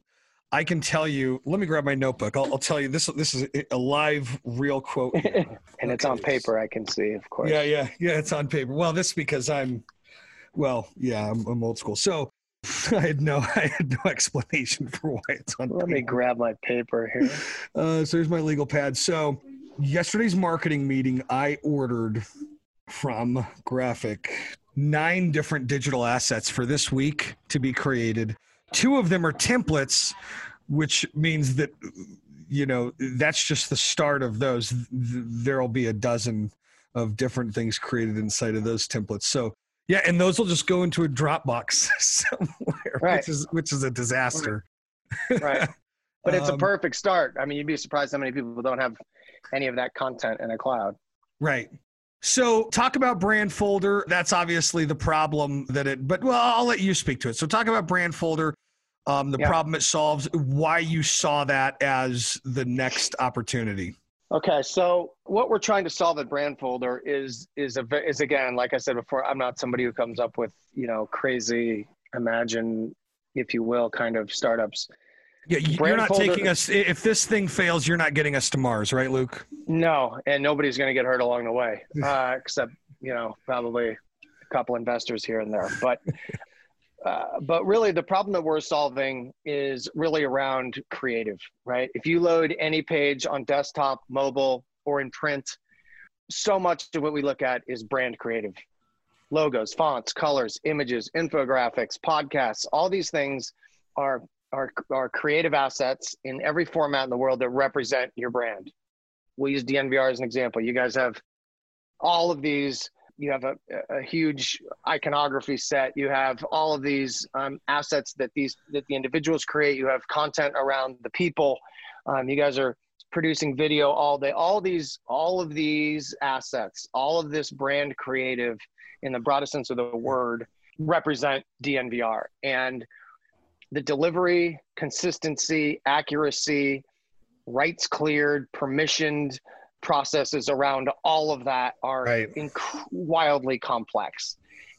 I can tell you, let me grab my notebook. I'll, I'll tell you this. This is a live, real quote. and okay. It's on paper, I can see, of course. Yeah, yeah, yeah, it's on paper. Well, this is because I'm, well, yeah, I'm, I'm old school. So I had no, I had no explanation for why it's on Let paper. me grab my paper here. Uh, so here's my legal pad. So yesterday's marketing meeting, I ordered from Graphic nine different digital assets for this week to be created. Two of them are templates, which means that, you know, that's just the start of those. There'll be a dozen of different things created inside of those templates. So yeah, and those will just go into a Dropbox somewhere, right. which is which is a disaster. Right. But it's um, a perfect start. I mean, you'd be surprised how many people don't have any of that content in a cloud. Right. So talk about Brandfolder. That's obviously the problem that it, but well, I'll let you speak to it. So talk about Brandfolder, um, the yeah. problem it solves, why you saw that as the next opportunity. Okay, so what we're trying to solve at Brandfolder is is a is again, like I said before, I'm not somebody who comes up with, you know, crazy, imagine, if you will, kind of startups. Yeah, you're not taking us. If this thing fails, you're not getting us to Mars, right, Luke? No, and nobody's going to get hurt along the way, uh, except, you know, probably a couple investors here and there. But uh, but really, the problem that we're solving is really around creative, right? If you load any page on desktop, mobile, or in print, so much of what we look at is brand creative. Logos, fonts, colors, images, infographics, podcasts, all these things are, are, are creative assets in every format in the world that represent your brand. we'll use D N V R as an example. You guys have all of these, you have a, a huge iconography set. You have all of these um, assets that these, that the individuals create. You have content around the people. Um, you guys are producing video all day, all these, all of these assets, all of this brand creative in the broadest sense of the word represent D N V R. And the delivery, consistency, accuracy, rights cleared, permissioned processes around all of that are right. inc- wildly complex.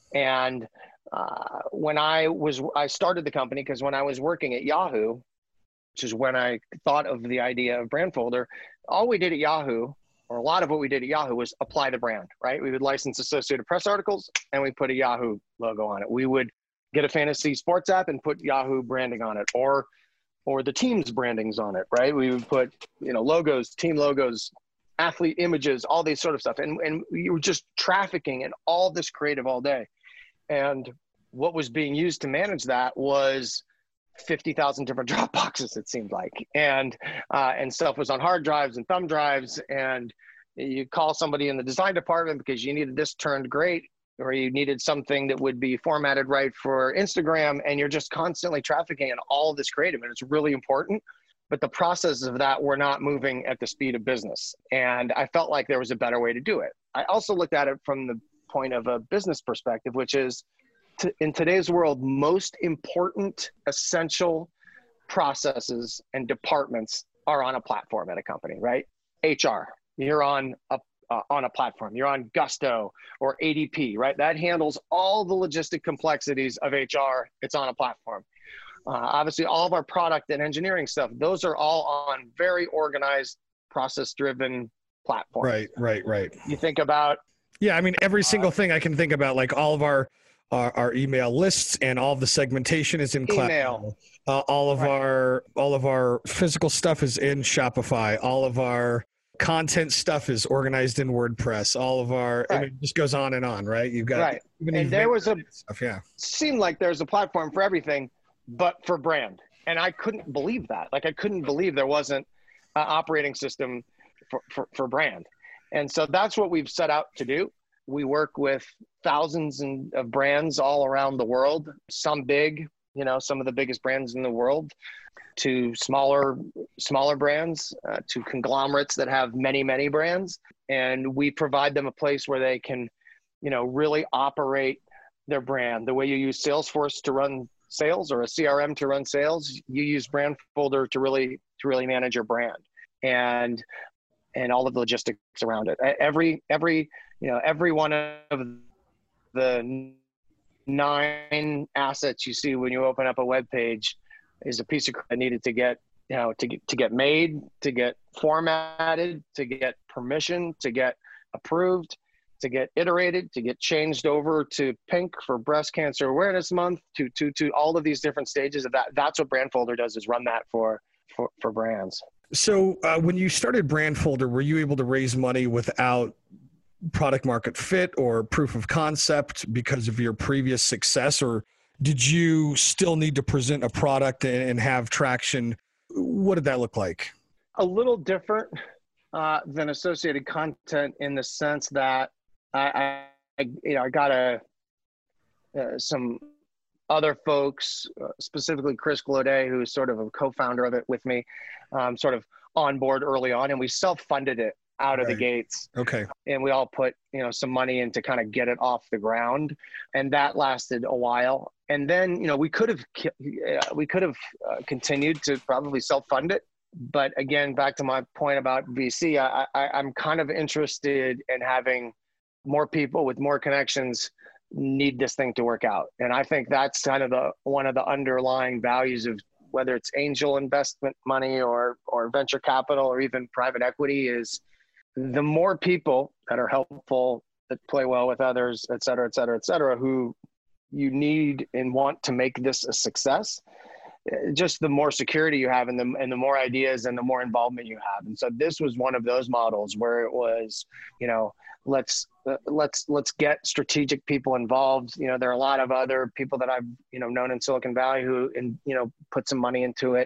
And uh, when I was, I started the company because when I was working at Yahoo, which is when I thought of the idea of Brandfolder, all we did at Yahoo, or a lot of what we did at Yahoo, was apply the brand, right? We would license Associated Press articles and we put a Yahoo logo on it. We would get a fantasy sports app and put Yahoo branding on it, or or the team's brandings on it, right? We would put, you know, logos, team logos, athlete images, all these sort of stuff. And, and you were just trafficking in all this creative all day. And what was being used to manage that was fifty thousand different drop boxes, it seemed like. And, uh, and stuff was on hard drives and thumb drives. And you call somebody in the design department because you needed this turned great, or you needed something that would be formatted right for Instagram. And you're just constantly trafficking in all of this creative. And it's really important. But the processes of that were not moving at the speed of business. And I felt like there was a better way to do it. I also looked at it from the point of a business perspective, which is to, in today's world, most important, essential processes and departments are on a platform at a company, right? H R, you're on a uh, on a platform. You're on Gusto or A D P, right? That handles all the logistic complexities of H R. It's on a platform. Uh, obviously, all of our product and engineering stuff, those are all on very organized, process-driven platforms. Right, right, right. You think about... Yeah, I mean, every single thing I can think about, like all of our our, our email lists and all of the segmentation is in cloud. Email. Uh, all of Right. our all of our physical stuff is in Shopify. All of our content stuff is organized in WordPress. All of our, Right. I mean, it just goes on and on, right? You've got... Right. even And there was a... stuff, yeah. seemed like there's a platform for everything, but for brand. And I couldn't believe that. Like, I couldn't believe there wasn't an operating system for, for, for brand. And so that's what we've set out to do. We work with thousands and of brands all around the world, some big, you know, some of the biggest brands in the world, to smaller, smaller brands, uh, to conglomerates that have many, many brands. And we provide them a place where they can, you know, really operate their brand. The way you use Salesforce to run sales, or a C R M to run sales, you use Brandfolder to really, to really manage your brand, and, and all of the logistics around it. Every, every, you know, every one of the nine assets you see when you open up a web page is a piece of that needed to get, you know, to get, to get made, to get formatted, to get permission, to get approved, to get iterated, to get changed over to pink for Breast Cancer Awareness Month, to, to, to all of these different stages of that. That's what Brandfolder does, is run that for, for, for brands. So uh, when you started Brandfolder, were you able to raise money without product market fit or proof of concept because of your previous success, or did you still need to present a product and, and have traction? What did that look like? A little different uh, than Associated Content, in the sense that I, I you know, I got a, uh, some other folks, uh, specifically Chris Glaudet, who is sort of a co-founder of it with me, um, sort of on board early on, and we self-funded it out of Right. the gates. Okay. And we all put, you know, some money in to kind of get it off the ground, and that lasted a while. And then, you know, we could have, uh, we could have uh, continued to probably self-fund it. But again, back to my point about V C, I, I, I'm kind of interested in having more people with more connections need this thing to work out. And I think that's kind of the, one of the underlying values of whether it's angel investment money or, or venture capital or even private equity, is the more people that are helpful, that play well with others, et cetera, et cetera, et cetera, who you need and want to make this a success, just the more security you have, and the, and the more ideas and the more involvement you have. And so this was one of those models where it was, you know, let's, uh, let's, let's get strategic people involved. You know, there are a lot of other people that I've, you know, known in Silicon Valley who, and, you know, put some money into it.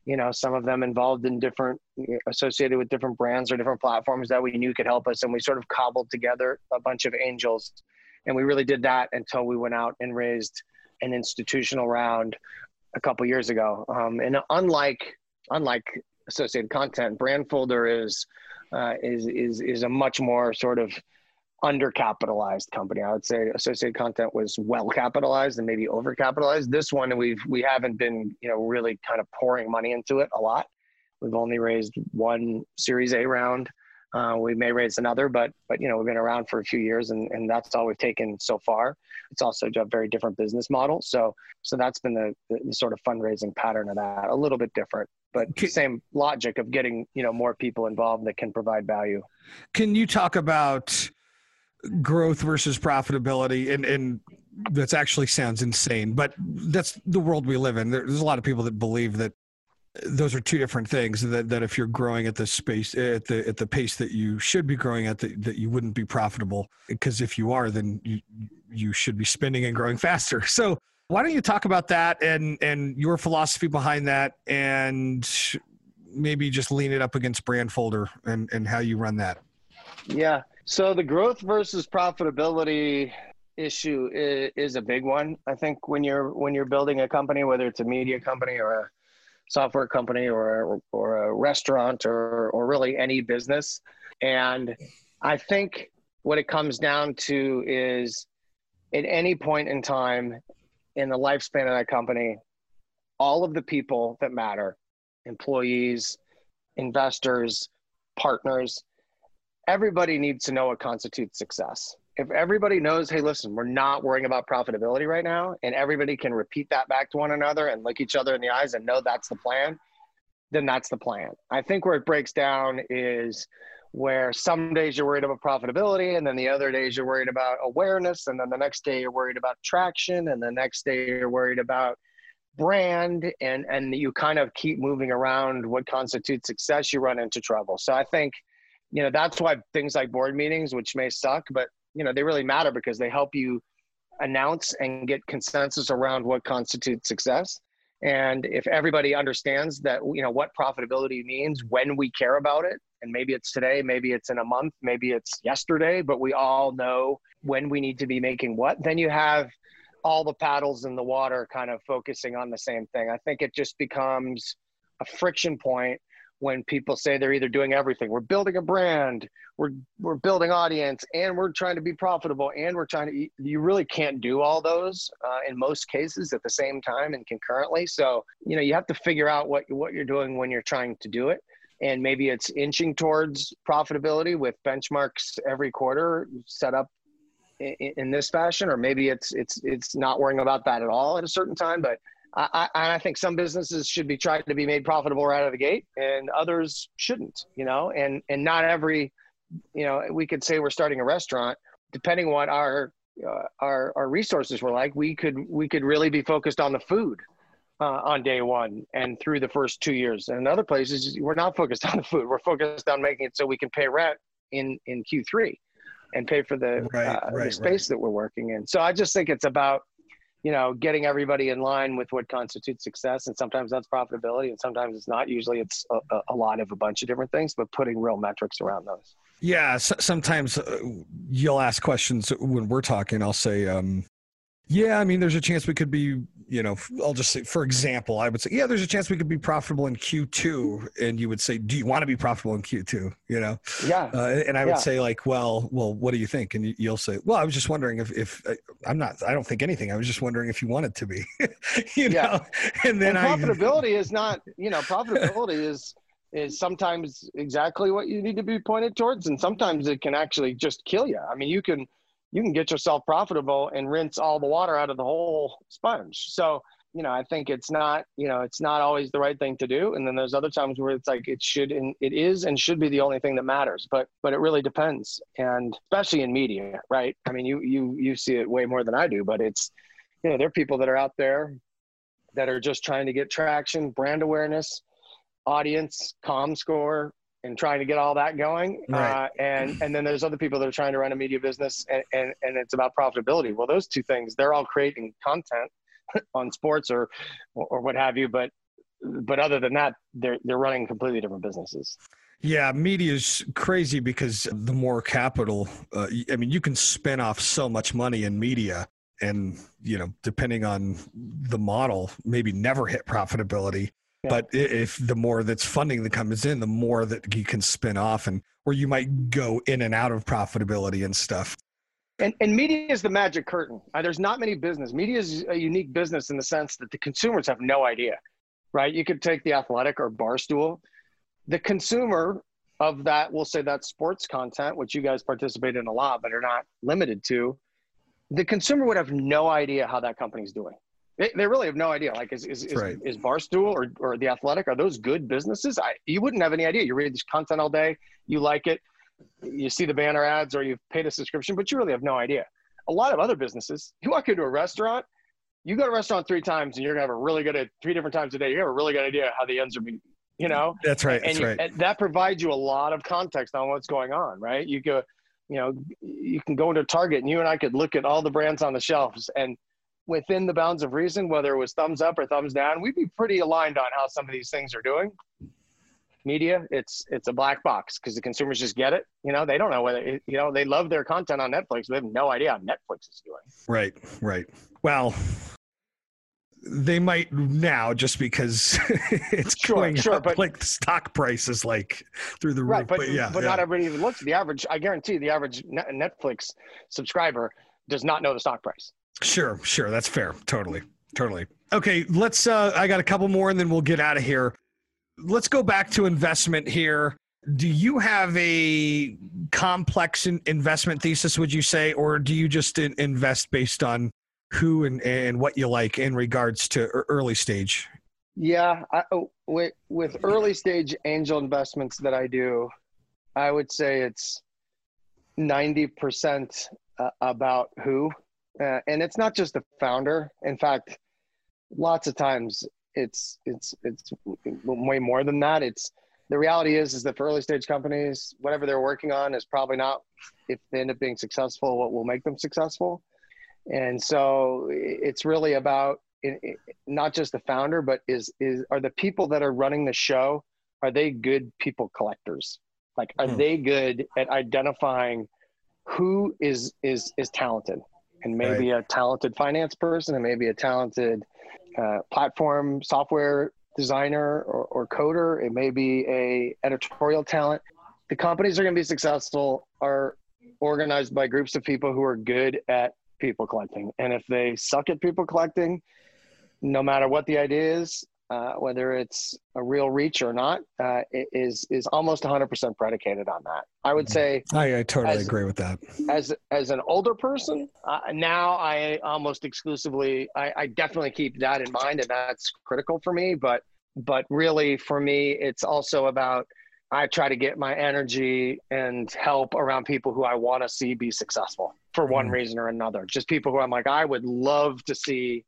you know, some of them involved in different, associated with different brands or different platforms that we knew could help us. And we sort of cobbled together a bunch of angels. And we really did that until we went out and raised an institutional round a couple years ago. Um, and unlike, unlike Associated Content, Brandfolder is, uh, is, is, is a much more sort of undercapitalized company. I would say Associated Content was well capitalized and maybe overcapitalized. This one, we've, we haven't been, you know, really kind of pouring money into it a lot. We've only raised one Series A round. Uh, we may raise another, but, but, you know, we've been around for a few years and, and that's all we've taken so far. It's also a very different business model. So, so that's been the, the, the sort of fundraising pattern of that, a little bit different, but same logic of getting, you know, more people involved that can provide value. Can you talk about growth versus profitability? And, and that's actually sounds insane, but that's the world we live in. There's a lot of people that believe that those are two different things, that, that if you're growing at the space, at the, at the pace that you should be growing at, the, that you wouldn't be profitable, because if you are, then you, you should be spending and growing faster. So why don't you talk about that and, and your philosophy behind that, and maybe just lean it up against Brandfolder and, and how you run that? Yeah. So the growth versus profitability issue is, is a big one. I think when you're, when you're building a company, whether it's a media company or a software company or, or a restaurant or, or really any business. And I think what it comes down to is at any point in time in the lifespan of that company, all of the people that matter, employees, investors, partners, everybody needs to know what constitutes success. If everybody knows, hey, listen, we're not worrying about profitability right now, and everybody can repeat that back to one another and look each other in the eyes and know that's the plan, then that's the plan. I think where it breaks down is where some days you're worried about profitability, and then the other days you're worried about awareness, and then the next day you're worried about traction, and the next day you're worried about brand, and, and you kind of keep moving around what constitutes success, you run into trouble. So I think, you know, that's why things like board meetings, which may suck, but you know, they really matter because they help you announce and get consensus around what constitutes success. And if everybody understands that, you know, what profitability means when we care about it, and maybe it's today, maybe it's in a month, maybe it's yesterday, but we all know when we need to be making what, then you have all the paddles in the water kind of focusing on the same thing. I think it just becomes a friction point when people say they're either doing everything. We're building a brand, we're we're building audience, and we're trying to be profitable, and we're trying to, you really can't do all those uh, in most cases at the same time and concurrently. So, you know, you have to figure out what, what you're doing when you're trying to do it. And maybe it's inching towards profitability with benchmarks every quarter set up in, in this fashion, or maybe it's, it's, it's not worrying about that at all at a certain time. But I, I think some businesses should be trying to be made profitable right out of the gate, and others shouldn't, you know, and, and not every, you know, we could say we're starting a restaurant, depending what our, uh, our, our resources were like, we could, we could really be focused on the food uh, on day one and through the first two years. And in other places, we're not focused on the food. We're focused on making it so we can pay rent in, in Q three and pay for the, right, uh, right, the space right. that we're working in. So I just think it's about, you know, getting everybody in line with what constitutes success. And sometimes that's profitability and sometimes it's not. Usually it's a, a lot of a bunch of different things, but putting real metrics around those. Yeah. So, sometimes uh, you'll ask questions when we're talking. I'll say, um, yeah, I mean, there's a chance we could be, you know, I'll just say, for example, I would say, yeah, there's a chance we could be profitable in Q two. And you would say, do you want to be profitable in Q two? You know? Yeah. Uh, and I would yeah. say like, well, well, what do you think? And you'll say, well, I was just wondering if, if I'm not, I don't think anything. I was just wondering if you wanted to be, you yeah. know, and then and I, profitability is not, you know, profitability is, is sometimes exactly what you need to be pointed towards. And sometimes it can actually just kill you. I mean, you can, you can get yourself profitable and rinse all the water out of the whole sponge. So, you know, I think it's not, you know, it's not always the right thing to do. And then there's other times where it's like, it should, and it is, and should be the only thing that matters, but, but it really depends. And especially in media, right? I mean, you, you, you see it way more than I do, but it's, you know, there are people that are out there that are just trying to get traction, brand awareness, audience, comm score, and trying to get all that going. Right. Uh, and, and then there's other people that are trying to run a media business and, and, and it's about profitability. Well, those two things, they're all creating content on sports or, or what have you, but but other than that, they're they're running completely different businesses. Yeah, media is crazy because the more capital, uh, I mean, you can spin off so much money in media and, you know, depending on the model, maybe never hit profitability. Yeah. But if the more that's funding that comes in, the more that you can spin off and where you might go in and out of profitability and stuff. And, and media is the magic curtain. Uh, there's not many business. Media is a unique business in the sense that the consumers have no idea, right? You could take The Athletic or Barstool. The consumer of that, we'll say that sports content, which you guys participate in a lot, but are not limited to, the consumer would have no idea how that company's doing. They, they really have no idea. Like, is is, is, right. is Barstool or, or The Athletic, are those good businesses? I, you wouldn't have any idea. You read this content all day, you like it, you see the banner ads or you've paid a subscription, but you really have no idea. A lot of other businesses, you walk into a restaurant, you go to a restaurant three times and you're going to have a really good, three different times a day, you have a really good idea how the ends are being, you know? That's right. And, that's you, right. and that provides you a lot of context on what's going on, right? You go, you know, you can go into Target and you and I could look at all the brands on the shelves, and within the bounds of reason, whether it was thumbs up or thumbs down, we'd be pretty aligned on how some of these things are doing. Media, it's it's a black box because the consumers just get it. You know, they don't know whether, it, you know, they love their content on Netflix, but they have no idea how Netflix is doing. Right, right. Well, they might now just because it's sure, going sure, up, but like the stock price is like through the roof. Right, but, but yeah, but yeah. not everybody even looks at the average. I guarantee the average Netflix subscriber does not know the stock price. Sure, sure. That's fair. Totally, totally. Okay, let's, uh, I got a couple more and then we'll get out of here. Let's go back to investment here. Do you have a complex in investment thesis, would you say, or do you just in invest based on who and, and what you like in regards to early stage? Yeah, I, with, with early stage angel investments that I do, I would say it's ninety percent uh, about who. Uh, and it's not just the founder. In fact, lots of times it's it's it's way more than that. It's the reality is is that for early stage companies, whatever they're working on is probably not, if they end up being successful, what will make them successful. And so it's really about it, it, not just the founder, but is is are the people that are running the show, are they good people collectors? Like, are hmm. they good at identifying who is is is talented? And maybe right. a talented finance person, and maybe a talented uh, platform software designer or, or coder. It may be a editorial talent. The companies are going to be successful are organized by groups of people who are good at people collecting. And if they suck at people collecting, no matter what the idea is, uh, whether it's a real reach or not, uh, it is is almost one hundred percent predicated on that. I would say I, I totally as, agree with that. As as an older person, uh, now I almost exclusively, I, I definitely keep that in mind, and that's critical for me. But but really, for me, it's also about, I try to get my energy and help around people who I want to see be successful for one mm. reason or another. Just people who I'm like, I would love to see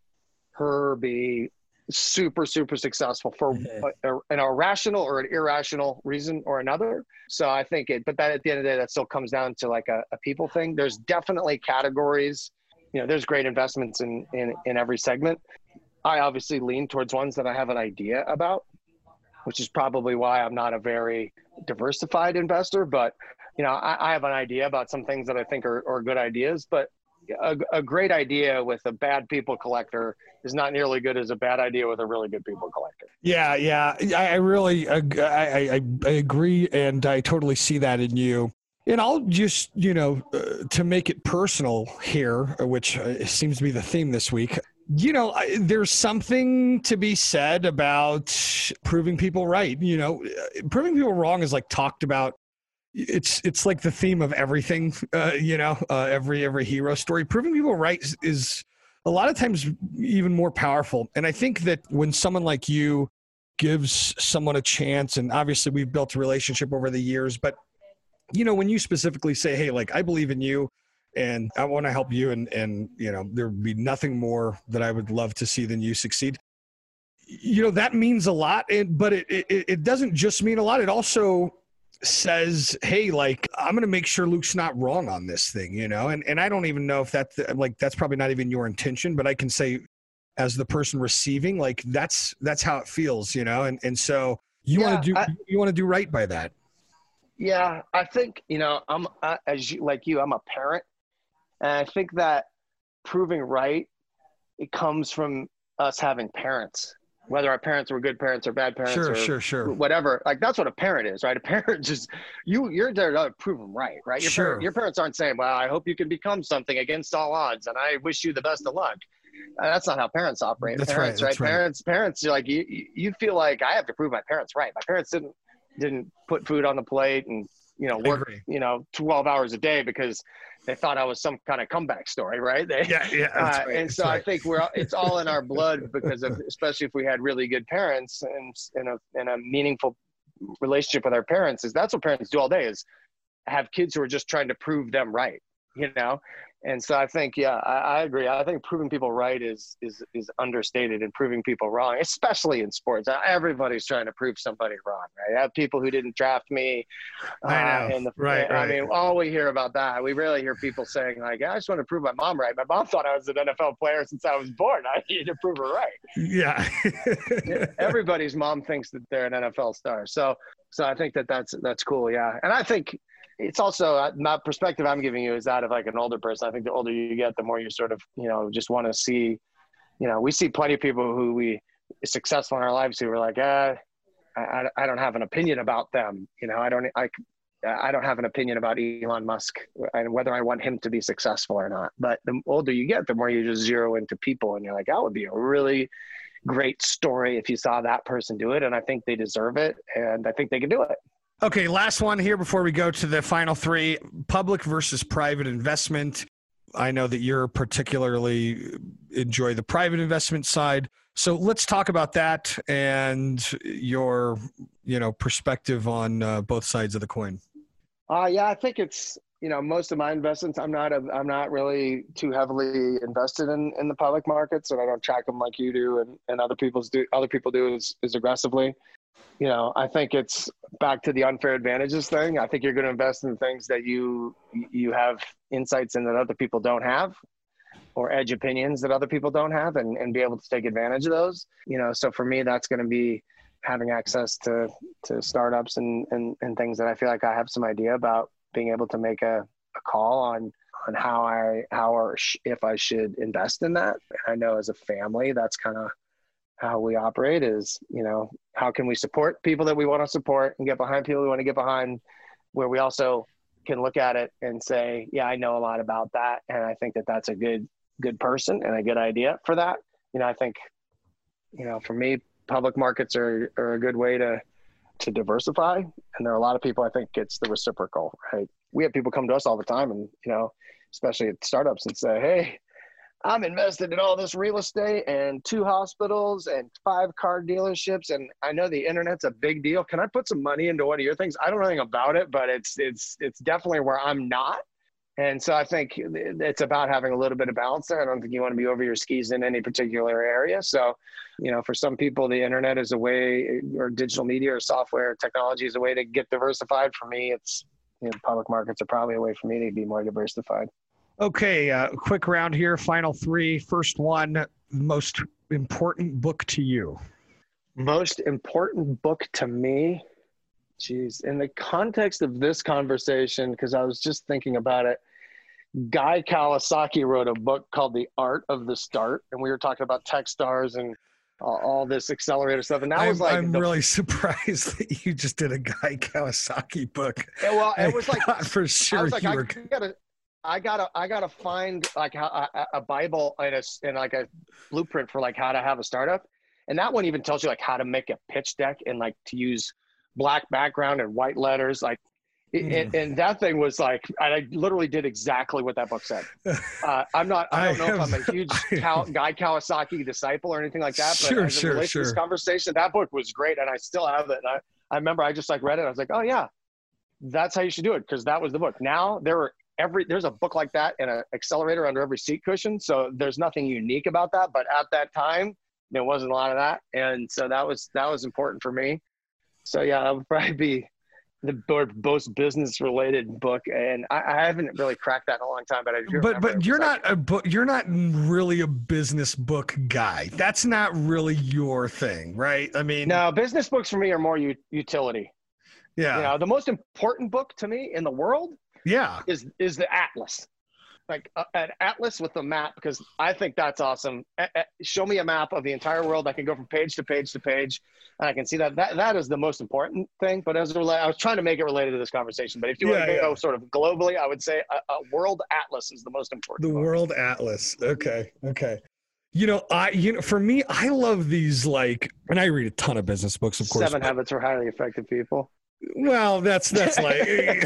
her be super, super successful for mm-hmm. a, a, an irrational or an irrational reason or another. So I think it, but that at the end of the day, that still comes down to like a, a people thing. There's definitely categories, you know, there's great investments in, in, in every segment. I obviously lean towards ones that I have an idea about, which is probably why I'm not a very diversified investor, but you know, I, I have an idea about some things that I think are, are good ideas, but a, a great idea with a bad people collector is not nearly good as a bad idea with a really good people collector. Yeah, yeah, I, I really, I, I, I agree, and I totally see that in you. And I'll just, you know, uh, to make it personal here, which uh, seems to be the theme this week. You know, I, there's something to be said about proving people right. You know, proving people wrong is like talked about. It's it's like the theme of everything. Uh, you know, uh, every every hero story. Proving people right is, is a lot of times even more powerful. And I think that when someone like you gives someone a chance, and obviously we've built a relationship over the years, but you know, when you specifically say, "Hey, like I believe in you, and I want to help you," and and you know, there would be nothing more that I would love to see than you succeed. You know, that means a lot, and but it it, it doesn't just mean a lot. It also says, hey, like, I'm going to make sure Luke's not wrong on this thing, you know? And and I don't even know if that's like, that's probably not even your intention, but I can say as the person receiving. Like that's that's how it feels, you know. And and so you Yeah, want to do I- you want to do right by that. Yeah, I think, you know, I'm I, as you, like you, I'm a parent, and I think that proving right, it comes from us having parents, whether our parents were good parents or bad parents Sure, or sure, sure. whatever. Like that's what a parent is, right? A parent just you you're there to prove them right, right? Your Sure. parent, your parents aren't saying, "Well, I hope you can become something against all odds, and I wish you the best of luck." Uh, That's not how parents operate. That's parents, right, that's right. Parents, parents, you're like you. you- You feel like I have to prove my parents right. My parents didn't didn't put food on the plate and you know work agree. you know twelve hours a day because they thought I was some kind of comeback story, right? They, Yeah, yeah. That's uh, right, and that's so I right. think we're it's all in our blood because of especially if we had really good parents and in a in a meaningful relationship with our parents is that's what parents do all day is have kids who are just trying to prove them right, you know. And so I think, yeah, I, I agree. I think proving people right is is is understated, and proving people wrong, especially in sports. Everybody's trying to prove somebody wrong, right? I have people who didn't draft me. I know. Uh, and the, Right, I right. mean, all we hear about that. We rarely hear people saying like, "I just want to prove my mom right." My mom thought I was an N F L player since I was born. I needed to prove her right. Yeah. Everybody's mom thinks that they're an N F L star. So, so I think that that's that's cool. Yeah, and I think it's also uh, my perspective I'm giving you is that of like an older person. I think the older you get, the more you sort of you know just want to see. You know, we see plenty of people who we successful in our lives who are like, ah, I, I don't have an opinion about them. You know, I don't I. I don't have an opinion about Elon Musk and whether I want him to be successful or not. But the older you get, the more you just zero into people and you're like, that would be a really great story if you saw that person do it. And I think they deserve it. And I think they can do it. Okay, last one here before we go to the final three, public versus private investment. I know that you're particularly enjoy the private investment side. So let's talk about that and your, you know, perspective on uh, both sides of the coin. Uh, yeah, I think it's, you know, most of my investments, I'm not, a, I'm not really too heavily invested in, in the public markets, and I don't track them like you do. And, and other people's do, other people do is, is aggressively. You know, I think it's back to the unfair advantages thing. I think you're going to invest in things that you, you have insights in that other people don't have, or edge opinions that other people don't have, and, and be able to take advantage of those. You know, so for me, that's going to be having access to, to startups and, and, and things that I feel like I have some idea about, being able to make a, a call on, on how I, how or sh- if I should invest in that. I know as a family, that's kind of how we operate is, you know, how can we support people that we want to support and get behind people we want to get behind, where we also can look at it and say, yeah, I know a lot about that. And I think that that's a good, good person and a good idea for that. You know, I think, you know, for me, public markets are, are a good way to, to diversify. And there are a lot of people, I think it's the reciprocal, right? We have people come to us all the time and, you know, especially at startups and say, hey, I'm invested in all this real estate and two hospitals and five car dealerships. And I know the internet's a big deal. Can I put some money into one of your things? I don't know anything about it, but it's, it's, it's definitely where I'm not. And so I think it's about having a little bit of balance there. I don't think you want to be over your skis in any particular area. So, you know, for some people, the internet is a way, or digital media or software technology is a way to get diversified. For me, it's, you know, public markets are probably a way for me to be more diversified. Okay, uh, quick round here. Final three. First one, most important book to you. Most important book to me? Geez, in the context of this conversation, because I was just thinking about it, Guy Kawasaki wrote a book called The Art of the Start, and we were talking about Techstars and all, all this accelerator stuff. And that I'm, was like, I'm the, really surprised that you just did a Guy Kawasaki book. yeah, well, it was like, for sure. I was like, you I were... gotta, I gotta, I gotta find like a, a, a Bible and a and like a blueprint for like how to have a startup, and that one even tells you like how to make a pitch deck and like to use black background and white letters, like. Mm. And, and that thing was like, I literally did exactly what that book said. Uh, I'm not, I don't I know have, if I'm a huge Cal, Guy Kawasaki disciple or anything like that, but sure, as it sure, relates sure. to this conversation, that book was great. And I still have it. And I, I remember I just like read it. I was like, oh yeah, that's how you should do it. Cause that was the book. Now there are every, there's a book like that and an accelerator under every seat cushion. So there's nothing unique about that. But at that time, there wasn't a lot of that. And so that was, that was important for me. So yeah, that would probably be, the most business related book, and I, I haven't really cracked that in a long time. But I do but but you're not like, a book. You're not really a business book guy. That's not really your thing, right? I mean, no, business books for me are more u- utility. Yeah. You know, the most important book to me in the world. Yeah. Is is the atlas. Like a, an atlas with a map, because I think that's awesome. A, a, show me a map of the entire world. I can go from page to page to page, and I can see that. That that is the most important thing. But as a, I was trying to make it related to this conversation. But if you yeah, want to go yeah. sort of globally, I would say a, a world atlas is the most important. The book. world atlas. Okay. Okay. You know, I you know, for me, I love these like, and I read a ton of business books, of course. Seven but, Habits for Highly Effective People. Well, that's that's like,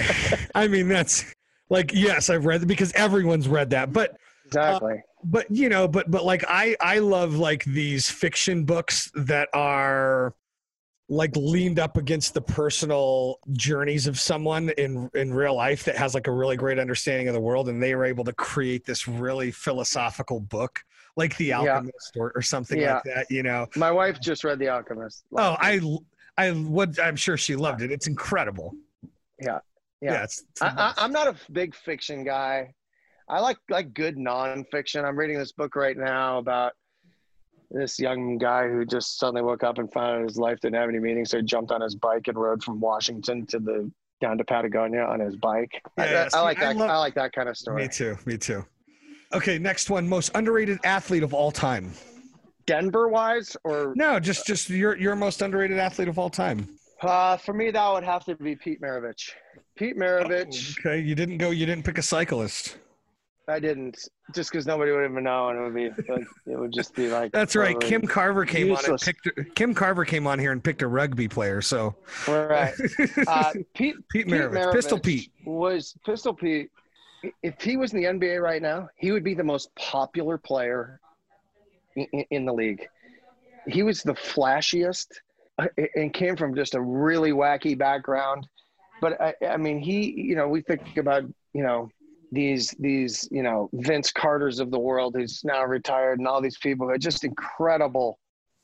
I mean, that's. Like, yes, I've read it because everyone's read that, but exactly. Uh, but you know, but but like I I love like these fiction books that are like leaned up against the personal journeys of someone in in real life that has like a really great understanding of the world, and they were able to create this really philosophical book, like The Alchemist yeah. or, or something yeah. like that. You know, my wife just read The Alchemist. Oh, I I would I'm sure she loved it. It's incredible. Yeah. Yeah, yeah it's, it's I, I, I'm not a big fiction guy. I like like good nonfiction. I'm reading this book right now about this young guy who just suddenly woke up and found out his life didn't have any meaning, so he jumped on his bike and rode from Washington to the down to Patagonia on his bike. Yeah, I, yeah, I, I like that. I, love, I like that kind of story. Me too. Me too. Okay, next one. Most underrated athlete of all time. Denver wise, or no? Just just your your most underrated athlete of all time. Uh, for me, that would have to be Pete Maravich. Pete Maravich. Oh, okay, you didn't go. You didn't pick a cyclist. I didn't, just because nobody would even know, and it would be like it would just be like. That's right. Kim Carver came useless. on and picked. Kim Carver came on here and picked a rugby player. So. Right. Uh, Pete. Pete Maravich. Maravich Pistol Pete was Pistol Pete. If he was in the N B A right now, he would be the most popular player in, in the league. He was the flashiest. And came from just a really wacky background. But I, I mean, he, you know, we think about, you know, these, these, you know, Vince Carters of the world who's now retired, and all these people who are just incredible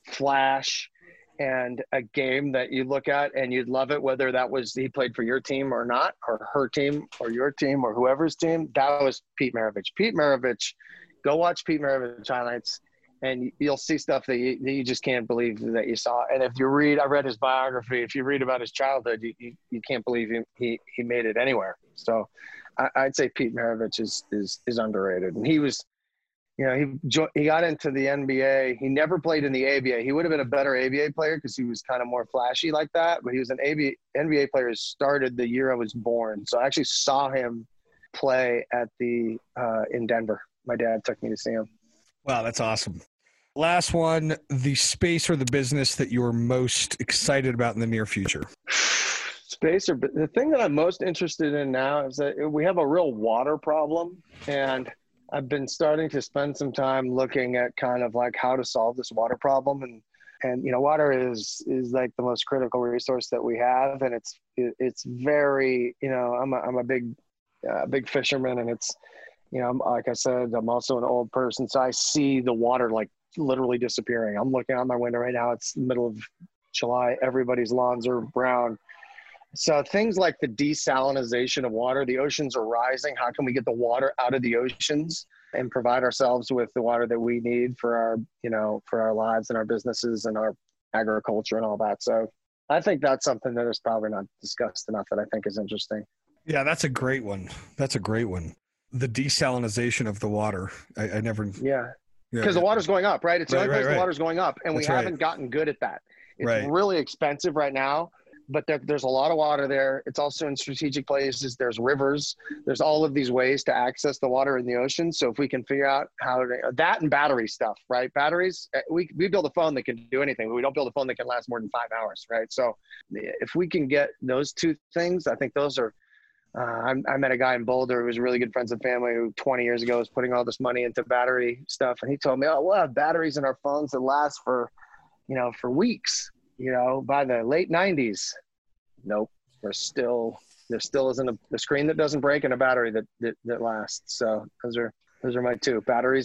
flash and a game that you look at and you'd love it, whether that was he played for your team or not, or her team or your team or whoever's team. That was Pete Maravich. Pete Maravich, go watch Pete Maravich highlights. And you'll see stuff that you, that you just can't believe that you saw. And if you read, I read his biography. If you read about his childhood, you, you, you can't believe he, he, he made it anywhere. So I, I'd say Pete Maravich is, is, is underrated. And he was, you know, he jo- he got into the N B A. He never played in the A B A. He would have been a better A B A player because he was kind of more flashy like that. But he was an A B A, N B A player who started the year I was born. So I actually saw him play at the uh, in Denver. My dad took me to see him. Wow, that's awesome. Last one, the space or the business that you're most excited about in the near future. Space or the thing that I'm most interested in now is that we have a real water problem, and I've been starting to spend some time looking at kind of like how to solve this water problem. And, and, you know, water is, is like the most critical resource that we have. And it's, it, it's very, you know, I'm a, I'm a big, uh, big fisherman, and it's, you know, like I said, I'm also an old person. So I see the water like literally disappearing. I'm looking out my window right now. It's the middle of July. Everybody's lawns are brown. So things like the desalinization of water, the oceans are rising. How can we get the water out of the oceans and provide ourselves with the water that we need for our, you know, for our lives and our businesses and our agriculture and all that. So I think that's something that is probably not discussed enough that I think is interesting. Yeah, that's a great one. That's a great one. The desalinization of the water. I, I never. Yeah. Yeah, because yeah. the water's going up, right? It's the right, only place right, the right. water's going up, and That's we right. haven't gotten good at that. It's right. really expensive right now, but there, there's a lot of water there. It's also in strategic places. There's rivers. There's all of these ways to access the water in the ocean. So if we can figure out how to, that and battery stuff, right? Batteries, we, we build a phone that can do anything, but we don't build a phone that can last more than five hours, right? So if we can get those two things, I think those are, Uh, I, I met a guy in Boulder who was really good friends and family who twenty years ago was putting all this money into battery stuff. And he told me, oh, we'll have batteries in our phones that last for, you know, for weeks, you know, by the late nineties. Nope. We're still, there still isn't a, a screen that doesn't break and a battery that, that, that lasts. So those are, those are my two, batteries and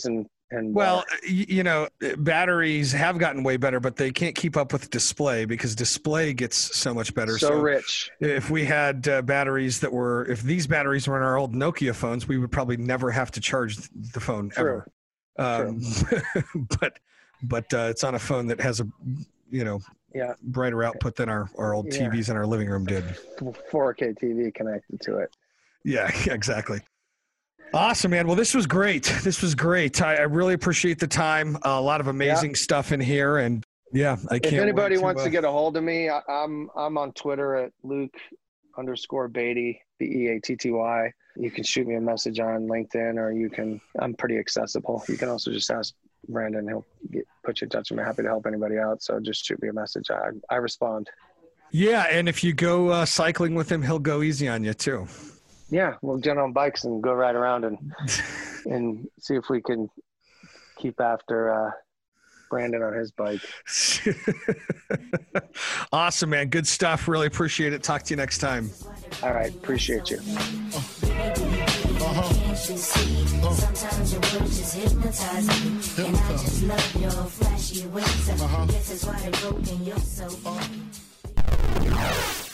And well, uh, y- you know, batteries have gotten way better, but they can't keep up with display because display gets so much better. so, rich. If we had uh, batteries that were, if these batteries were in our old Nokia phones, we would probably never have to charge the phone True. ever. Um, but but uh, it's on a phone that has a, you know, Yeah. brighter output than our, our old Yeah. T Vs in our living room did. four K T V connected to it. Yeah, exactly. Awesome, man. Well, this was great. This was great. I, I really appreciate the time. Uh, a lot of amazing Yeah. stuff in here, and yeah, I can't. If anybody wait wants uh, to get a hold of me, I, I'm I'm on Twitter at Luke underscore Beatty, B E A T T Y. You can shoot me a message on LinkedIn, or you can. I'm pretty accessible. You can also just ask Brandon. He'll get, put you in touch with me. Happy to help anybody out. So just shoot me a message. I I respond. Yeah, and if you go uh, cycling with him, he'll go easy on you too. Yeah, we'll get on bikes and go ride around and and see if we can keep after uh, Brandon on his bike. Awesome, man. Good stuff. Really appreciate it. Talk to you next time. All right, appreciate you. Sometimes your words just hypnotize me, and I just love your flashy ways. I guess that's why they're broken. You're so.